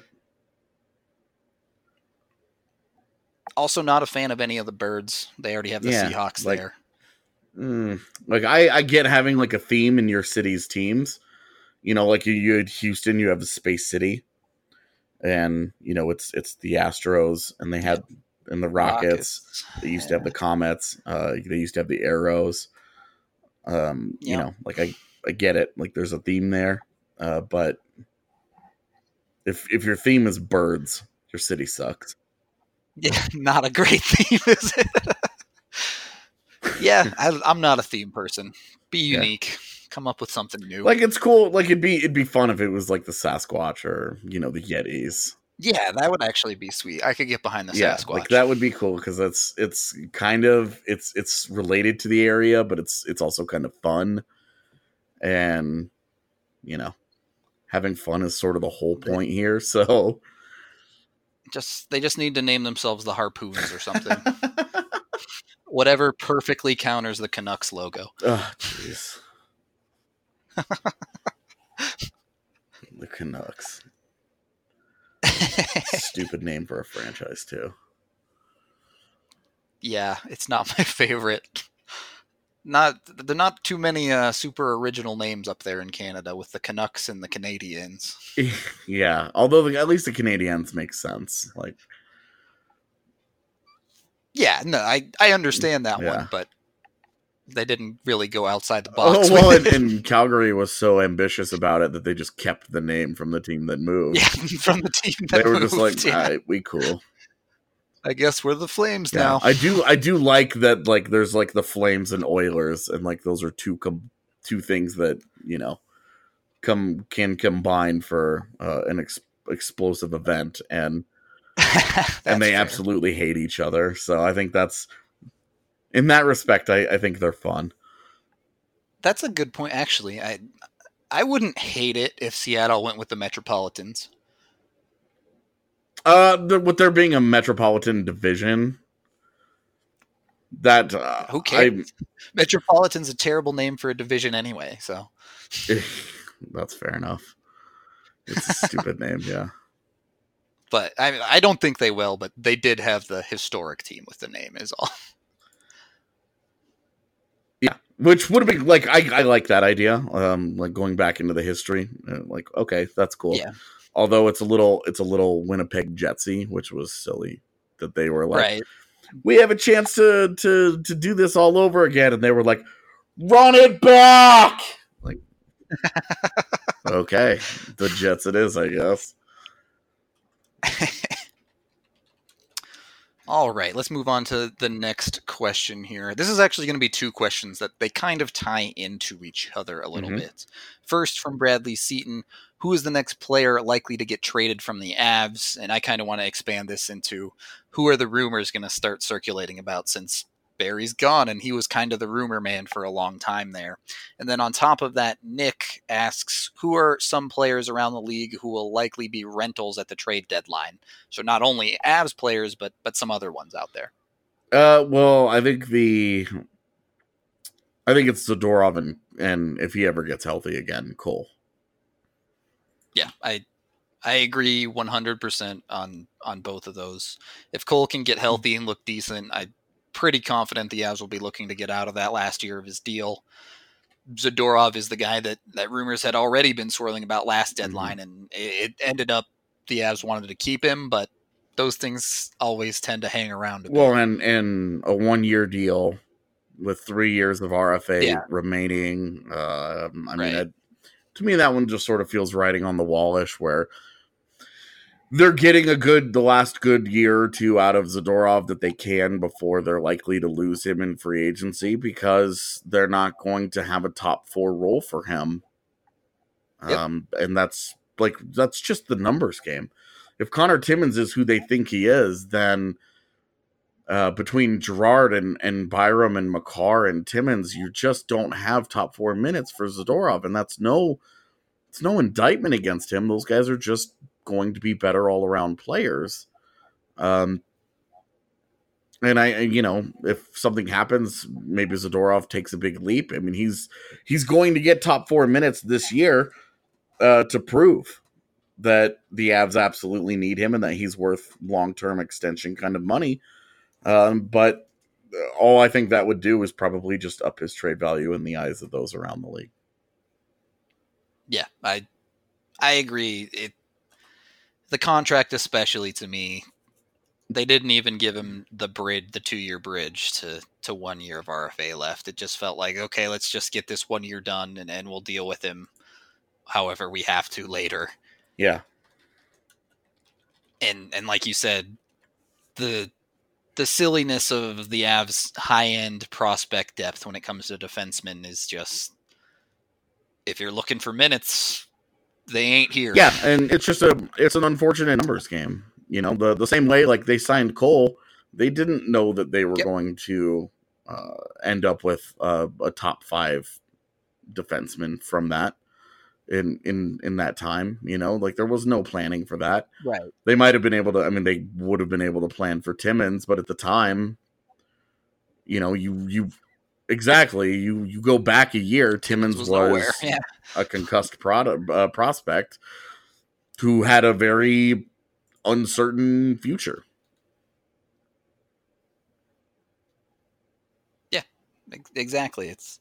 Also, not a fan of any of the birds. They already have the Seahawks there. Like I get having like a theme in your city's teams. You know, like you had Houston, you have the Space City, and you know it's the Astros, and they had and the Rockets. They used to have the Comets. They used to have the Arrows. You know, like I get it. Like there's a theme there, but if your theme is birds, your city sucks. Yeah, not a great theme, is it? Yeah, I'm not a theme person. Be unique. Come up with something new. Like it's cool. Like it'd be fun if it was like the Sasquatch or you know the Yetis. Yeah, that would actually be sweet. I could get behind the Sasquatch. Like that would be cool because it's kind of it's related to the area, but it's also kind of fun, and you know, having fun is sort of the whole point here. So, they just need to name themselves the Harpoons or something. Whatever perfectly counters the Canucks logo. Oh, jeez. The Canucks. Stupid name for a franchise too. Yeah, it's not my favorite. There are not too many super original names up there in Canada with the Canucks and the Canadiens. Yeah, although at least the Canadiens make sense. Like, yeah, no, I understand that one, but they didn't really go outside the box. Oh, well, and Calgary was so ambitious about it that they just kept the name from the team that moved. Yeah, from the team that moved. They were just like, all right, we cool. I guess we're the Flames now. I do like that. Like, there's like the Flames and Oilers, and like those are two things that you know can combine for an explosive event, and and they absolutely hate each other. So I think that's in that respect. I think they're fun. That's a good point, actually. I wouldn't hate it if Seattle went with the Metropolitans. With there being a metropolitan division, that who cares? Metropolitan's a terrible name for a division anyway, so that's fair enough. It's a stupid name, yeah. But I don't think they will. But they did have the historic team with the name, is all. Yeah, which would have been like I like that idea. Like going back into the history, like okay, that's cool. Yeah. Although it's a little Winnipeg Jetsy, which was silly that they were like, right. We have a chance to do this all over again, and they were like, run it back. Like, okay, the Jets it is, I guess. All right, let's move on to the next question here. This is actually going to be two questions that they kind of tie into each other a little bit. First, from Bradley Seaton, who is the next player likely to get traded from the Avs? And I kind of want to expand this into who are the rumors going to start circulating about, since Barry's gone and he was kind of the rumor man for a long time there. And then on top of that, Nick asks, who are some players around the league who will likely be rentals at the trade deadline? So not only Avs players, but some other ones out there. Well, I think it's Zadorov and if he ever gets healthy again, Cole. Yeah, I agree 100% on both of those. If Cole can get healthy and look decent, I'm pretty confident the Avs will be looking to get out of that last year of his deal. Zadorov is the guy that rumors had already been swirling about last deadline, and it ended up the Avs wanted to keep him, but those things always tend to hang around a bit. Well, and a 1-year deal with 3 years of RFA remaining. To me, that one just sort of feels writing on the wallish, where they're getting the last good year or two out of Zadorov that they can before they're likely to lose him in free agency, because they're not going to have a top 4 role for him. And that's just the numbers game. If Connor Timmins is who they think he is, then between Girard and Byram and Makar and Timmins, you just don't have top 4 minutes for Zadorov, and it's no indictment against him. Those guys are just going to be better all around players. And if something happens, maybe Zadorov takes a big leap. I mean, he's going to get top 4 minutes this year to prove that the Avs absolutely need him and that he's worth long-term extension kind of money. But all I think that would do is probably just up his trade value in the eyes of those around the league. Yeah, I agree. The contract, especially to me, they didn't even give him the 2-year bridge to 1 year of RFA left. It just felt like, okay, let's just get this 1 year done and we'll deal with him however we have to later. Yeah. And like you said, the silliness of the Avs' high-end prospect depth when it comes to defensemen is just, if you're looking for minutes, they ain't here. Yeah, and it's an unfortunate numbers game. You know, the same way like they signed Cole, they didn't know that they were going to end up with a top 5 defenseman from that in that time. You know, like there was no planning for that. Right. They might have been able to. I mean, they would have been able to plan for Timmins, but at the time, you know, you go back a year. Timmins was a concussed prospect who had a very uncertain future. Yeah, exactly. It's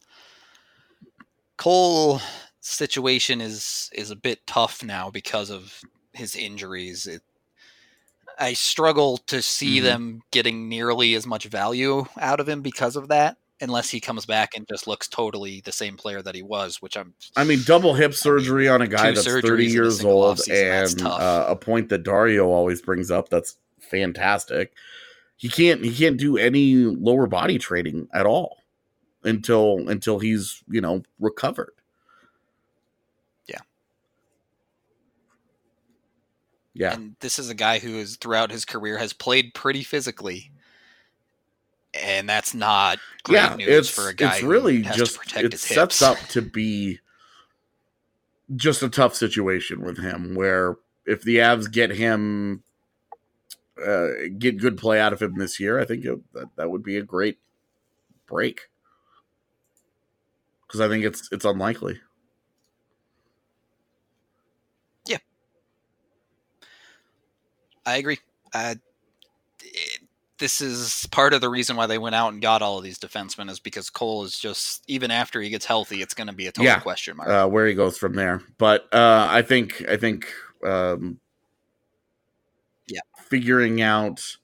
Cole situation is a bit tough now because of his injuries. I struggle to see them getting nearly as much value out of him because of that, unless he comes back and just looks totally the same player that he was, which double hip surgery on a guy that's 30 years old, and a point that Dario always brings up that's fantastic. He can't do any lower body training at all until he's, you know, recovered. Yeah. And this is a guy who is throughout his career has played pretty physically. And that's not great news for a guy really who has just, to protect his hips. It sets up to be just a tough situation with him, where if the Avs get him, get good play out of him this year, I think that would be a great break. Because I think it's unlikely. Yeah. I agree. This is part of the reason why they went out and got all of these defensemen, is because Cole is just, even after he gets healthy, it's going to be a total question mark. Where he goes from there. But I think figuring out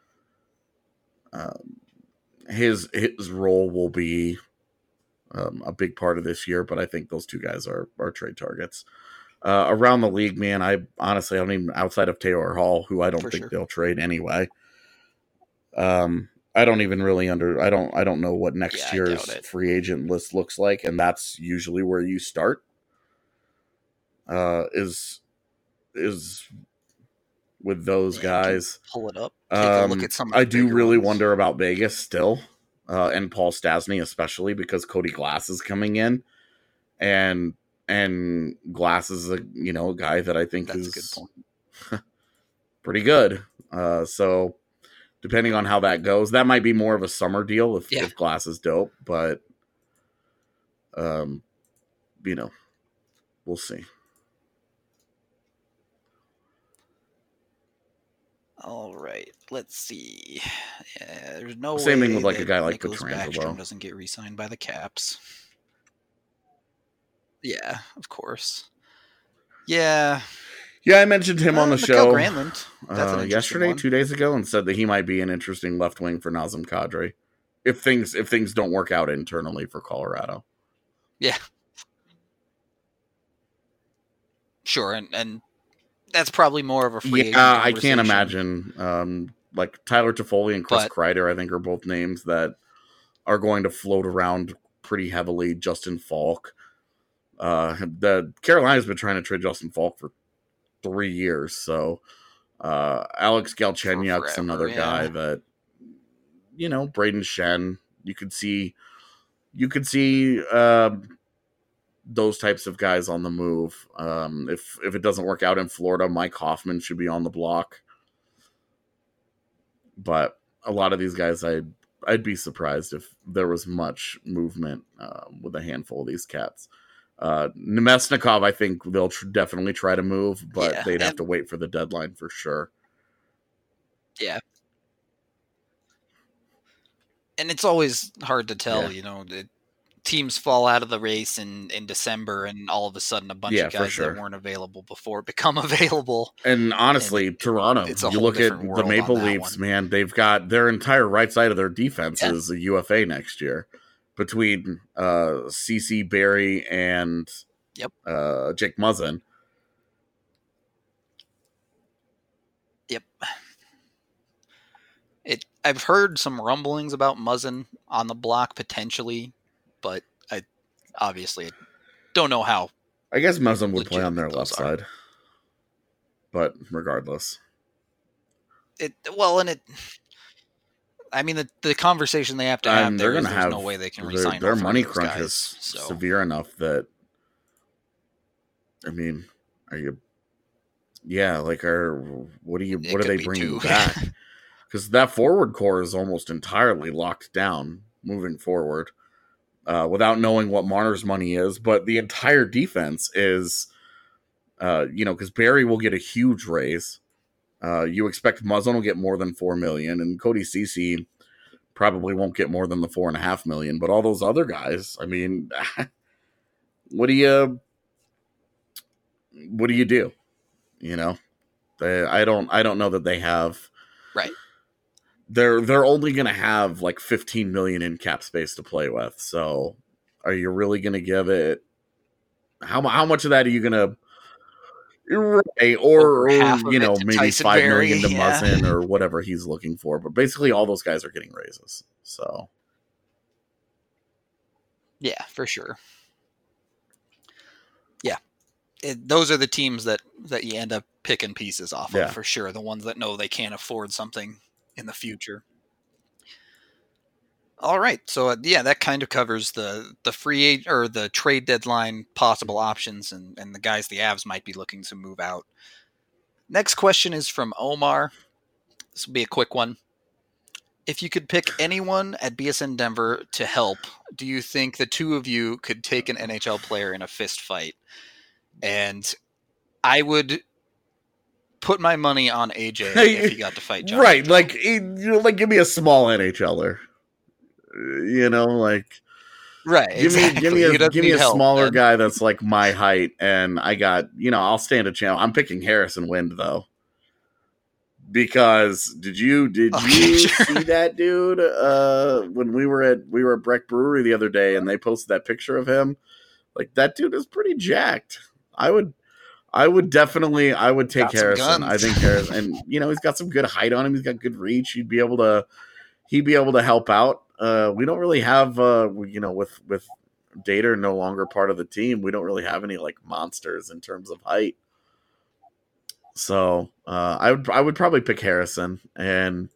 his role will be a big part of this year. But I think those two guys are trade targets. Around the league, man, I honestly don't even, outside of Taylor Hall, who I don't think they'll trade anyway. I don't even really I don't know what next year's free agent list looks like, and that's usually where you start. Is with those guys. Pull it up. Take a look at some of the I do really ones. wonder about Vegas still, and Paul Stastny especially, because Cody Glass is coming in, and Glass is a guy that I think is a good point. pretty good. So depending on how that goes, that might be more of a summer deal if Glass is dope, but we'll see. All right, let's see. There's no same way thing with like a guy like Nicholas Pietrangelo Backstrom doesn't get re-signed by the Caps. Yeah, of course. Yeah, I mentioned him on the show Granlund. Yesterday, 2 days ago, and said that he might be an interesting left wing for Nazem Kadri if things don't work out internally for Colorado. Yeah, sure, and that's probably more of a free agent I can't imagine. Like Tyler Toffoli and Chris Kreider, I think, are both names that are going to float around pretty heavily. Justin Falk. The Carolina's been trying to trade Justin Falk for 3 years, so Alex Galchenyuk's another guy that Braden Shen. You could see those types of guys on the move. If it doesn't work out in Florida, Mike Hoffman should be on the block. But a lot of these guys, I'd be surprised if there was much movement with a handful of these cats. Nemesnikov, I think they'll definitely try to move, but they'd have to wait for the deadline for sure. Yeah. And it's always hard to tell, teams fall out of the race in December, and all of a sudden a bunch of guys that weren't available before become available. And honestly, Toronto, you look at the Maple Leafs, man, they've got their entire right side of their defense is a UFA next year between CC Barry and Jake Muzzin. Yep. I've heard some rumblings about Muzzin on the block potentially, but I obviously don't know how. I guess Muzzin would play on their left side, but regardless, I mean, the conversation they have to have there is there's no way they can resign their money crunch is severe enough that, I mean, what are they bringing back? Because that forward core is almost entirely locked down moving forward, without knowing what Marner's money is. But the entire defense is, because Barry will get a huge raise. You expect Muzzin will get more than $4 million, and Cody Ceci probably won't get more than the $4.5 million. But all those other guys, I mean, what do you do? I don't know that they have. Right. They're only going to have like $15 million in cap space to play with. So, are you really going to give it? How much of that are you going to? Right, or maybe Tyson $5 Barry, million to Muzzin or whatever he's looking for. But basically, all those guys are getting raises. So, yeah, for sure. Yeah, those are the teams that you end up picking pieces off of for sure. The ones that know they can't afford something in the future. All right, so that kind of covers the free or the trade deadline possible options and the guys the Avs might be looking to move out. Next question is from Omar. This will be a quick one. If you could pick anyone at BSN Denver to help, do you think the two of you could take an NHL player in a fist fight? And I would put my money on AJ if he got to fight John. Right, like give me a small NHLer. Right. Give me a smaller guy that's like my height, and I got I'll stand a chance. I'm picking Harrison Wind though, because did you see that dude when we were at Breck Brewery the other day, and they posted that picture of him? Like, that dude is pretty jacked. I would take Harrison. I think Harrison, and he's got some good height on him. He's got good reach. He'd be able to help out. We don't really have, with Dater no longer part of the team, we don't really have any like monsters in terms of height. So I would probably pick Harrison, and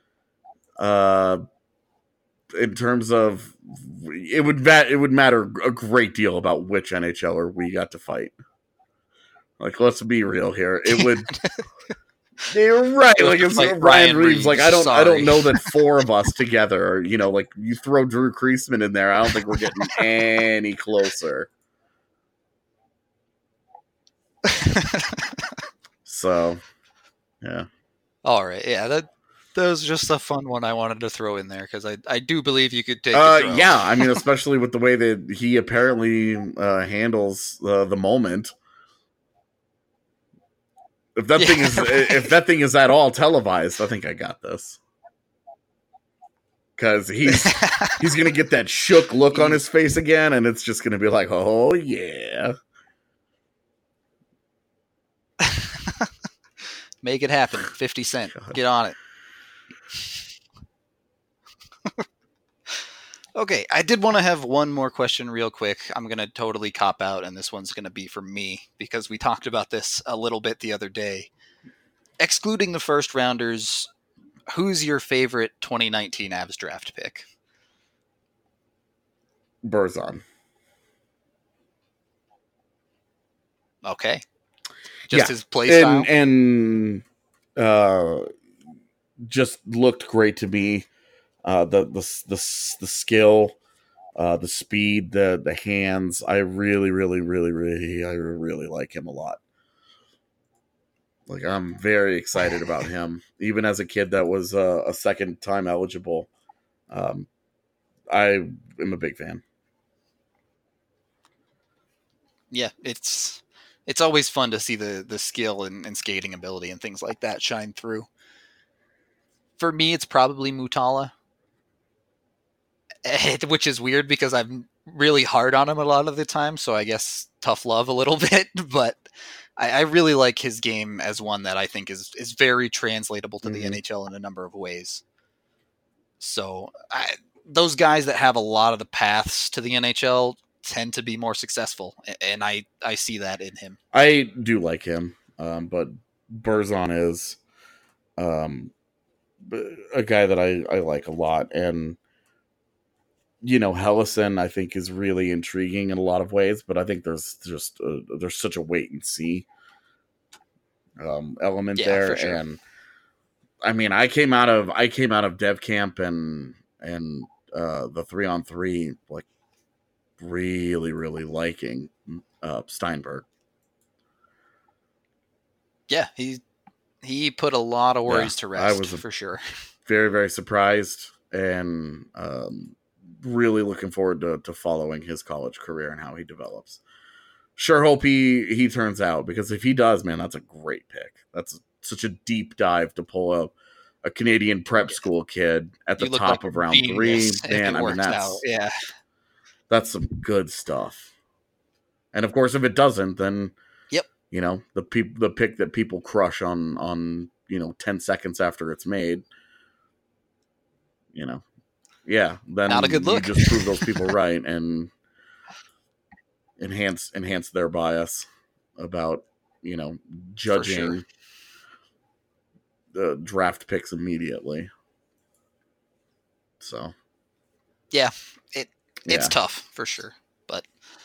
in terms of it would matter a great deal about which NHLer we got to fight. Like, let's be real here. It would. You're right. Like, it's like Ryan Reeves. Like, I don't know that four of us together, like you throw Drew Kreisman in there, I don't think we're getting any closer. So, yeah. All right. Yeah, that was just a fun one I wanted to throw in there because I do believe you could take. Yeah, I mean, especially with the way that he apparently handles the moment. If that thing is at all televised, I think I got this. Because he's gonna get that shook look on his face again, and it's just gonna be like, oh yeah. Make it happen. 50 Cent. God. Get on it. Okay, I did want to have one more question real quick. I'm going to totally cop out, and this one's going to be for me, because we talked about this a little bit the other day. Excluding the first rounders, who's your favorite 2019 Avs draft pick? Berzon. Okay. Just his play style? And just looked great to me. The skill, the speed, the hands. I really like him a lot. Like, I'm very excited about him. Even as a kid that was a second time eligible, I am a big fan. Yeah, it's always fun to see the skill and skating ability and things like that shine through. For me, it's probably Mutala, which is weird because I'm really hard on him a lot of the time, so I guess tough love a little bit, but I really like his game as one that I think is very translatable to the NHL in a number of ways. So those guys that have a lot of the paths to the NHL tend to be more successful, and I see that in him. I do like him, but Berzon is a guy that I like a lot, and Helleson I think is really intriguing in a lot of ways, but I think there's such a wait and see element there, for sure. And I mean, I came out of dev camp and the 3-on-3 like really liking Steinberg. Yeah, he put a lot of worries to rest. I was for sure very surprised, and really looking forward to following his college career and how he develops. Sure hope he turns out, because if he does, man, that's a great pick. That's such a deep dive to pull a Canadian prep school kid at the top of round 3. Man, I mean, that's some good stuff. And of course, if it doesn't, then the pick that people crush on 10 seconds after it's made, then not a good look. You just prove those people right and enhance their bias about judging the draft picks immediately. So it's tough for sure, but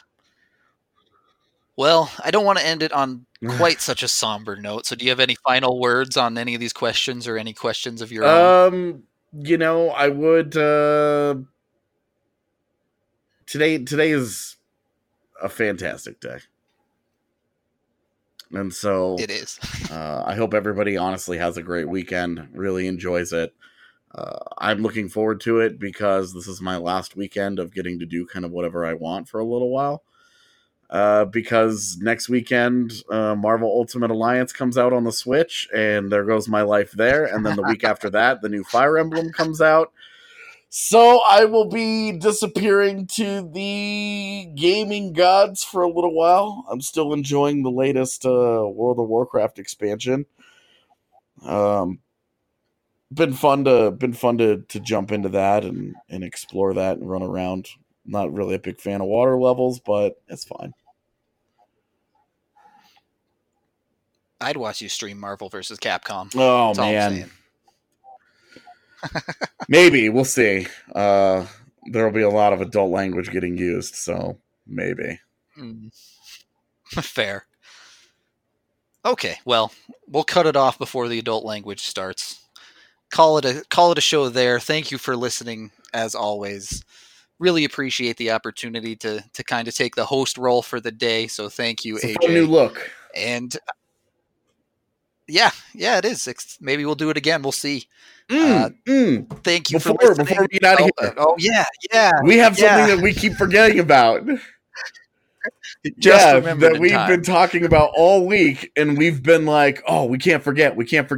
well, I don't want to end it on quite such a somber note. So do you have any final words on any of these questions, or any questions of your own? I would today is a fantastic day. And so it is. I hope everybody honestly has a great weekend, really enjoys it. I'm looking forward to it because this is my last weekend of getting to do kind of whatever I want for a little while. Because next weekend, Marvel Ultimate Alliance comes out on the Switch, and there goes my life there. And then the week after that, the new Fire Emblem comes out. So I will be disappearing to the gaming gods for a little while. I'm still enjoying the latest World of Warcraft expansion. Been fun to jump into that and explore that and run around. Not really a big fan of water levels, but it's fine. I'd watch you stream Marvel vs. Capcom. Oh, man. Maybe. We'll see. There will be a lot of adult language getting used, so maybe. Fair. Okay, well, we'll cut it off before the adult language starts. Call it a show there. Thank you for listening, as always. Really appreciate the opportunity to kind of take the host role for the day, so thank you, AJ. It's a new look. And yeah, it is. Maybe we'll do it again. We'll see. Thank you for listening. Before we get out of here. Oh, yeah. We have something that we keep forgetting about. That we've been talking about all week, and we've been like, oh, we can't forget.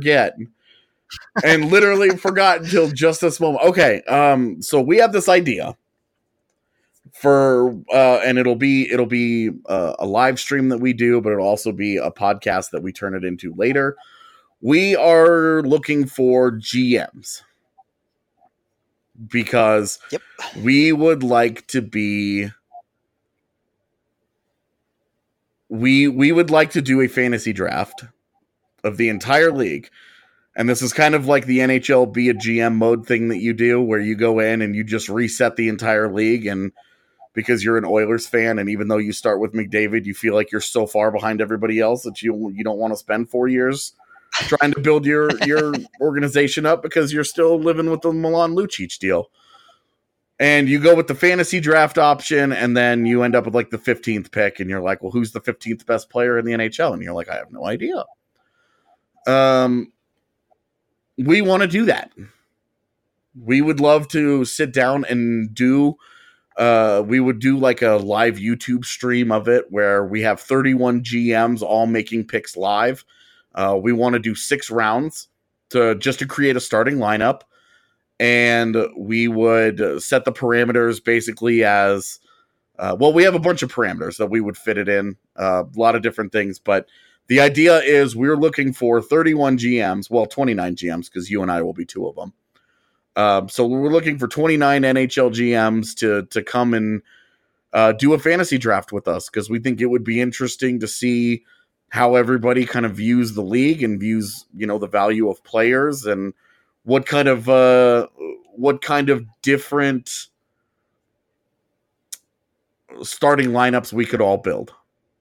And literally forgot until just this moment. Okay, so we have this idea for and it'll be a live stream that we do, but it'll also be a podcast that we turn it into later. We are looking for GMs because we would like to be we would like to do a fantasy draft of the entire league, And this is kind of like the NHL be a GM mode thing that you do, where you go in and you just reset the entire league. And because you're an Oilers fan, and even though you start with McDavid, you feel like you're so far behind everybody else that you don't want to spend 4 years trying to build your organization up because you're still living with the Milan Lucic deal. And you go with the fantasy draft option, and then you end up with like the 15th pick, and you're like, well, who's the 15th best player in the NHL? And you're like, I have no idea. We want to do that. We would love to sit down and do, we would do like a live YouTube stream of it where we have 31 GMs all making picks live. We want to do 6 rounds to create a starting lineup. And we would set the parameters basically as, we have a bunch of parameters that we would fit it in, a lot of different things, but the idea is we're looking for 31 GMs, 29 GMs, because you and I will be 2 of them. So we're looking for 29 NHL GMs to come and do a fantasy draft with us, because we think it would be interesting to see how everybody kind of views the league and views, the value of players and what kind of different starting lineups we could all build.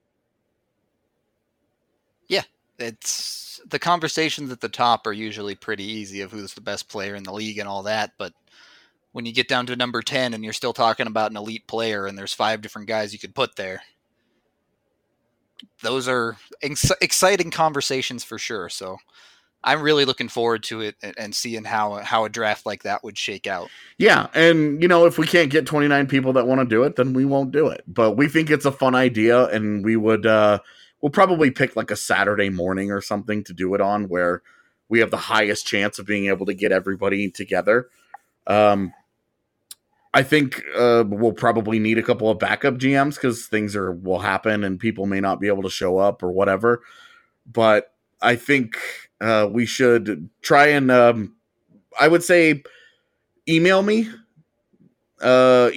It's the conversations at the top are usually pretty easy of who's the best player in the league and all that. But when you get down to number 10 and you're still talking about an elite player and there's 5 different guys you could put there, those are exciting conversations for sure. So I'm really looking forward to it and seeing how a draft like that would shake out. Yeah. And, if we can't get 29 people that want to do it, then we won't do it. But we think it's a fun idea, and we would, we'll probably pick like a Saturday morning or something to do it on, where we have the highest chance of being able to get everybody together. I think we'll probably need a couple of backup GMs because things will happen and people may not be able to show up or whatever. But I think we should try and I would say email me. Use the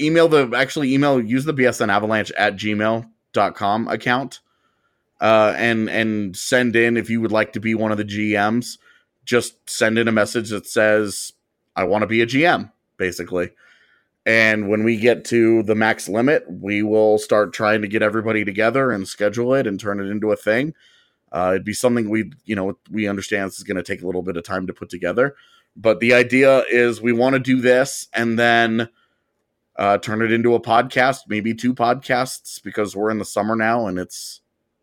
bsnavalanche@gmail.com account. And send in, if you would like to be one of the GMs, just send in a message that says, I want to be a GM, basically. And when we get to the max limit, we will start trying to get everybody together and schedule it and turn it into a thing. It'd be something we understand this is going to take a little bit of time to put together. But the idea is we want to do this and then turn it into a podcast, maybe 2 podcasts, because we're in the summer now and it's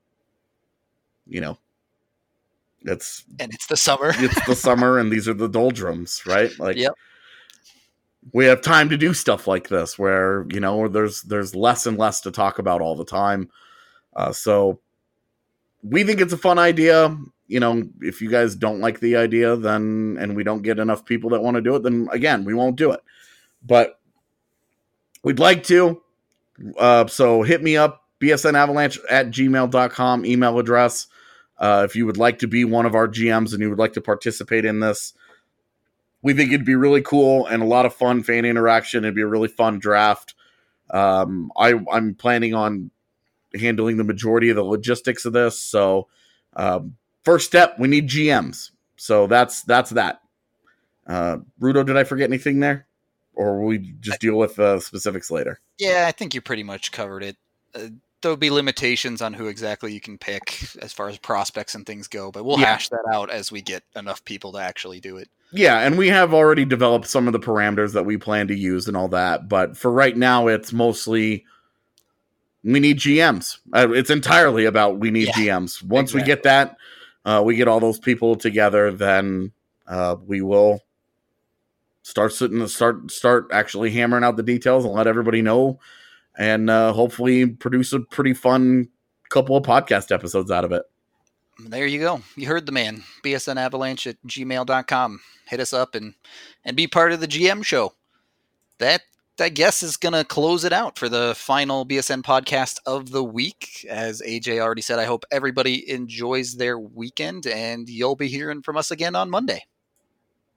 it's the summer. It's the summer, and these are the doldrums, right? Like, yep. We have time to do stuff like this, where there's less and less to talk about all the time. So we think it's a fun idea. If you guys don't like the idea, then and we don't get enough people that want to do it, then again, we won't do it. But we'd like to. So hit me up. bsnavalanche@gmail.com email address. If you would like to be one of our GMs and you would like to participate in this, we think it'd be really cool and a lot of fun fan interaction. It'd be a really fun draft. I'm planning on handling the majority of the logistics of this. So first step, we need GMs. So that's that. Rudo, did I forget anything there? Or will we just deal with specifics later? Yeah, I think you pretty much covered it. There'll be limitations on who exactly you can pick as far as prospects and things go, but we'll hash that out as we get enough people to actually do it. Yeah, and we have already developed some of the parameters that we plan to use and all that, but for right now, it's mostly we need GMs. It's entirely about we need GMs. Once we get that, we get all those people together, then we will start actually hammering out the details and let everybody know, and hopefully produce a pretty fun couple of podcast episodes out of it. There you go. You heard the man. bsnavalanche@gmail.com. Hit us up and be part of the GM show. That, I guess, is going to close it out for the final BSN podcast of the week. As AJ already said, I hope everybody enjoys their weekend, and you'll be hearing from us again on Monday.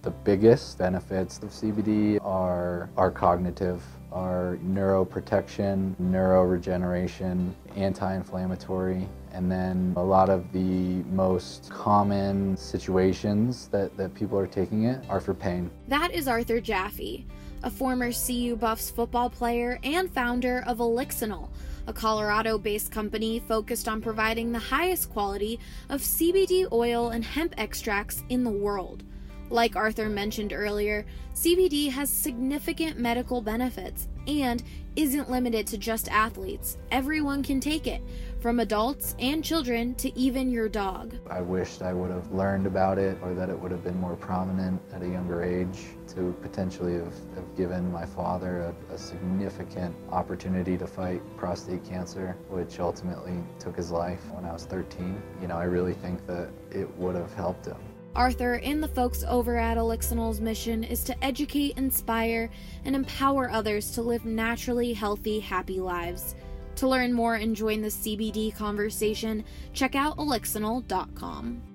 The biggest benefits of CBD are cognitive, are neuroprotection, neuroregeneration, anti-inflammatory, and then a lot of the most common situations that people are taking it are for pain. That is Arthur Jaffe, a former CU Buffs football player and founder of Elixinol, a Colorado-based company focused on providing the highest quality of CBD oil and hemp extracts in the world. Like Arthur mentioned earlier, CBD has significant medical benefits and isn't limited to just athletes. Everyone can take it, from adults and children to even your dog. I wished I would have learned about it, or that it would have been more prominent at a younger age to potentially have given my father a significant opportunity to fight prostate cancer, which ultimately took his life when I was 13. I really think that it would have helped him. Arthur and the folks over at Elixinol's mission is to educate, inspire, and empower others to live naturally healthy, happy lives. To learn more and join the CBD conversation, check out elixinol.com.